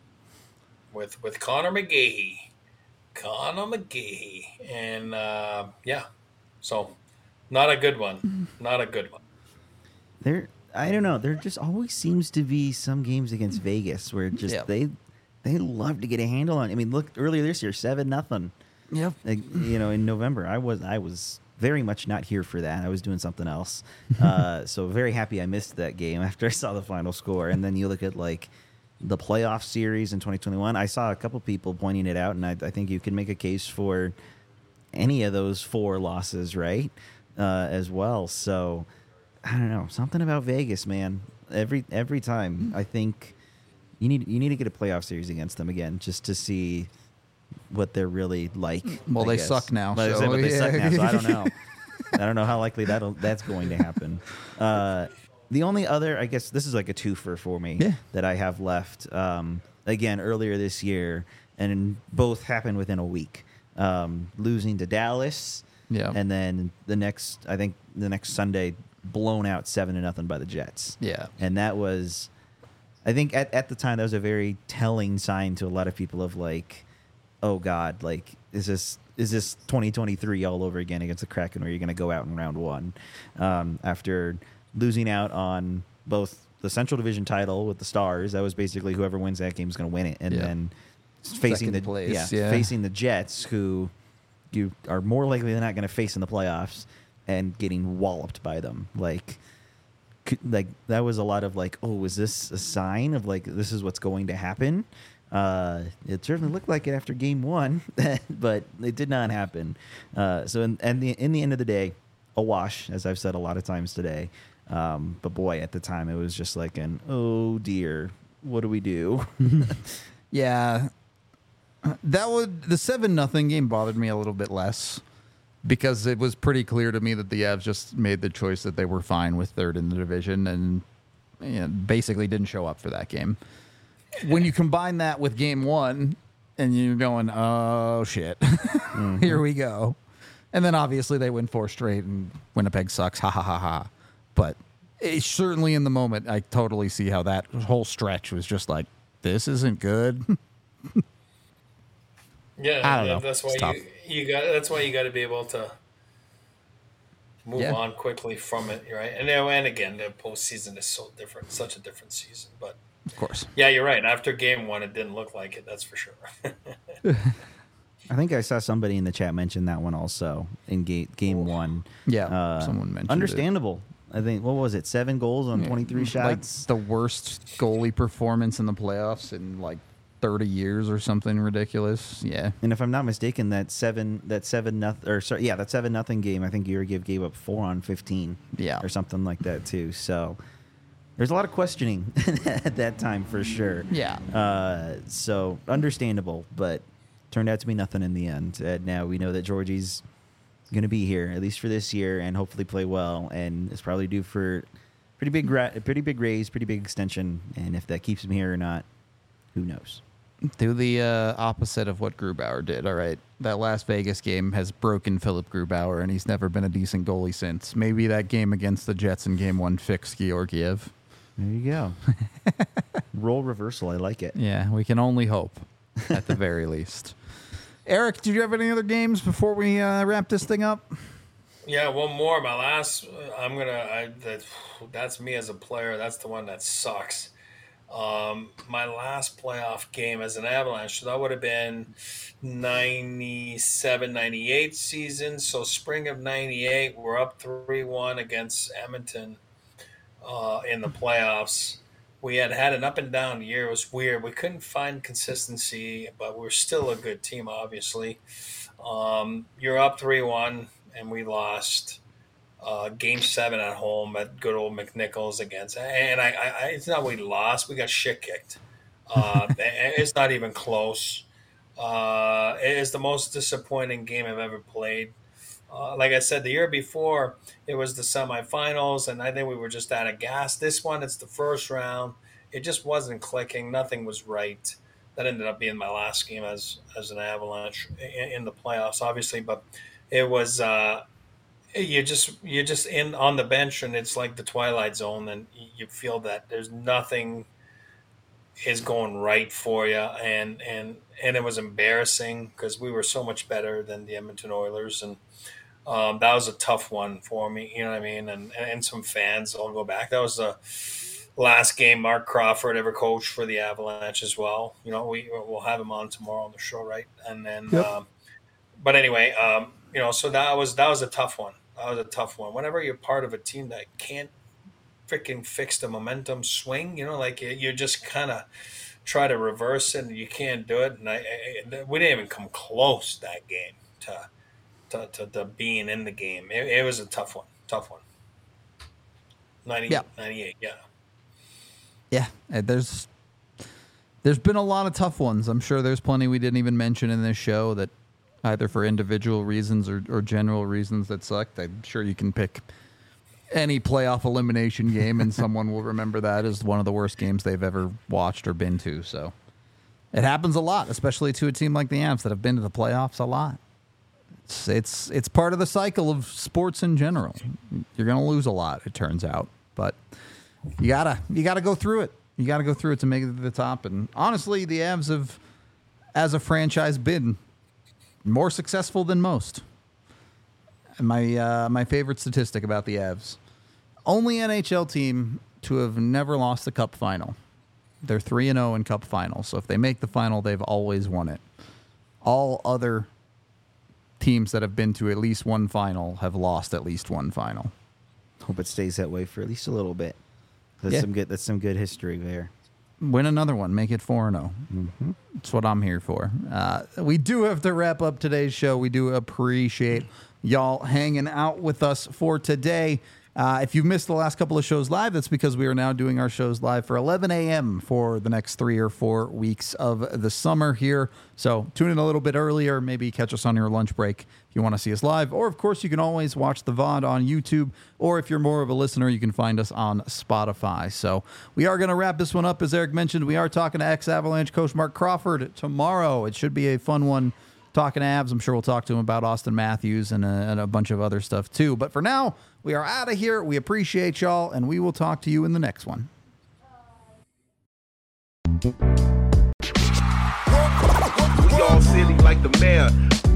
with with Connor McGahey. Connor McGahey. And uh, yeah, so not a good one. Not a good one. there. I don't know. There just always seems to be some games against Vegas where just Yeah. they they love to get a handle on. I mean, look earlier this year, seven nothing. Yep. Like, you know, in November, I was I was very much not here for that. I was doing something else. Uh, so very happy I missed that game after I saw the final score. And then you look at like the playoff series in twenty twenty-one. I saw a couple people pointing it out, and I, I think you can make a case for any of those four losses, right? Uh, as well. So I don't know, something about Vegas, man. Every every time, I think you need you need to get a playoff series against them again, just to see what they're really like. Well, I they guess. suck now, But, I so, said, but they suck yeah. now, so I don't know. I don't know how likely that that's going to happen. Uh, the only other, I guess, this is like a twofer for me Yeah. that I have left. Um, again, earlier this year, and both happened within a week. Um, losing to Dallas, Yeah. and then the next, I think, the next Sunday, blown out seven to nothing by the Jets. Yeah. And that was, I think at, at the time, that was a very telling sign to a lot of people of like, oh God, like, is this is this twenty twenty-three all over again against the Kraken where you're going to go out in round one um, after losing out on both the Central Division title with the Stars. That was basically whoever wins that game is going to win it. And Yeah. then facing Second the place, yeah, yeah. facing the Jets, who you are more likely than not going to face in the playoffs, and getting walloped by them. Like, c- like that was a lot of like, oh, is this a sign of like this is what's going to happen? Uh, it certainly looked like it after game one, but it did not happen. Uh, so in, and the in the end of the day, a wash, as I've said a lot of times today. Um, but boy, at the time, it was just like an oh dear, what do we do? Yeah. That would the seven nothing game bothered me a little bit less because it was pretty clear to me that the Avs just made the choice that they were fine with third in the division and you know, basically didn't show up for that game. When you combine that with game one and you're going, oh shit, here we go. And then obviously they win four straight and Winnipeg sucks. Ha ha ha ha. But it, certainly in the moment, I totally see how that whole stretch was just like, this isn't good. Yeah, I don't know. that's why It's tough. you you got. That's why you got to be able to move Yeah. on quickly from it, right? And then, and again, the postseason is so different, such a different season. But Of course. yeah, you're right. After game one, it didn't look like it. That's for sure. I think I saw somebody in the chat mention that one also in game game one. Yeah, Uh, someone mentioned it. understandable. I think what was it, seven goals on twenty-three shots? Like the worst goalie performance in the playoffs in like thirty years or something ridiculous. Yeah. And if I'm not mistaken, that seven that seven nothing or sorry, yeah, that seven nothing game, I think Urigev gave up four on fifteen, Yeah. or something like that too. So there's a lot of questioning at that time for sure. Yeah. Uh, so understandable, but turned out to be nothing in the end. And now we know that Georgie's going to be here at least for this year and hopefully play well, and is probably due for pretty big, ra- pretty big raise, pretty big extension. And if that keeps him here or not, who knows? Do the uh, opposite of what Grubauer did. All right, that Las Vegas game has broken Philip Grubauer, and he's never been a decent goalie since. Maybe that game against the Jets in Game One fixed Georgiev. There you go. Role reversal. I like it. Yeah, we can only hope, at the very least. Eric, did you have any other games before we uh, wrap this thing up? Yeah, one more. My last. I'm gonna. I, that, that's me as a player. That's the one that sucks. Um, my last playoff game as an Avalanche, so that would have been ninety-seven ninety-eight season. So spring of ninety-eight, we're up three one against Edmonton uh, in the playoffs. We had had an up and down year. It was weird. We couldn't find consistency, but we're still a good team, obviously. Um, you're up three one, and we lost. Uh, game seven at home at good old McNichols against, and I, I, it's not we lost, we got shit kicked. Uh, it's not even close. Uh, it is the most disappointing game I've ever played. Uh, like I said, the year before it was the semifinals, and I think we were just out of gas. This one, it's the first round. It just wasn't clicking. Nothing was right. That ended up being my last game as as an Avalanche in, in the playoffs, obviously, but it was. Uh, You just you're just in on the bench, and it's like the Twilight Zone, and you feel that there's nothing is going right for you, and and and it was embarrassing because we were so much better than the Edmonton Oilers, and um, that was a tough one for me. You know what I mean? And and some fans, I'll go back. That was the last game Mark Crawford ever coached for the Avalanche as well. You know, we we'll have him on tomorrow on the show, right? And then, yep. um, but anyway, um, you know, so that was that was a tough one. That was a tough one. Whenever you're part of a team that can't freaking fix the momentum swing, you know, like you just kind of try to reverse it and you can't do it. And I, I, we didn't even come close that game to to, to, to being in the game. It, it was a tough one, tough one. ninety, yeah. ninety-eight, yeah. Yeah, there's there's been a lot of tough ones. I'm sure there's plenty we didn't even mention in this show that either for individual reasons or, or general reasons that sucked. I'm sure you can pick any playoff elimination game and someone will remember that as one of the worst games they've ever watched or been to. So it happens a lot, especially to a team like the Avs that have been to the playoffs a lot. It's it's, it's part of the cycle of sports in general. You're going to lose a lot, it turns out. But you gotta you gotta go through it. You got to go through it to make it to the top. And honestly, the Avs have, as a franchise, been more successful than most. And my uh, my favorite statistic about the Avs, only N H L team to have never lost a cup final. They're three and oh in cup finals. So if they make the final, they've always won it. All other teams that have been to at least one final have lost at least one final. Hope it stays that way for at least a little bit. That's Yeah. some good. That's some good history there. Win another one. Make it four and oh. Mm-hmm. That's what I'm here for. Uh, we do have to wrap up today's show. We do appreciate y'all hanging out with us for today. Uh, if you've missed the last couple of shows live, that's because we are now doing our shows live for eleven a.m. for the next three or four weeks of the summer here. So tune in a little bit earlier. Maybe catch us on your lunch break if you want to see us live. Or, of course, you can always watch the V O D on YouTube. Or if you're more of a listener, you can find us on Spotify. So we are going to wrap this one up. As Eric mentioned, we are talking to ex-Avalanche coach Mark Crawford tomorrow. It should be a fun one. Talking to Avs, I'm sure we'll talk to him about Austin Matthews and a, and a bunch of other stuff too. But for now, we are out of here. We appreciate y'all, and we will talk to you in the next one. We all silly like the mayor.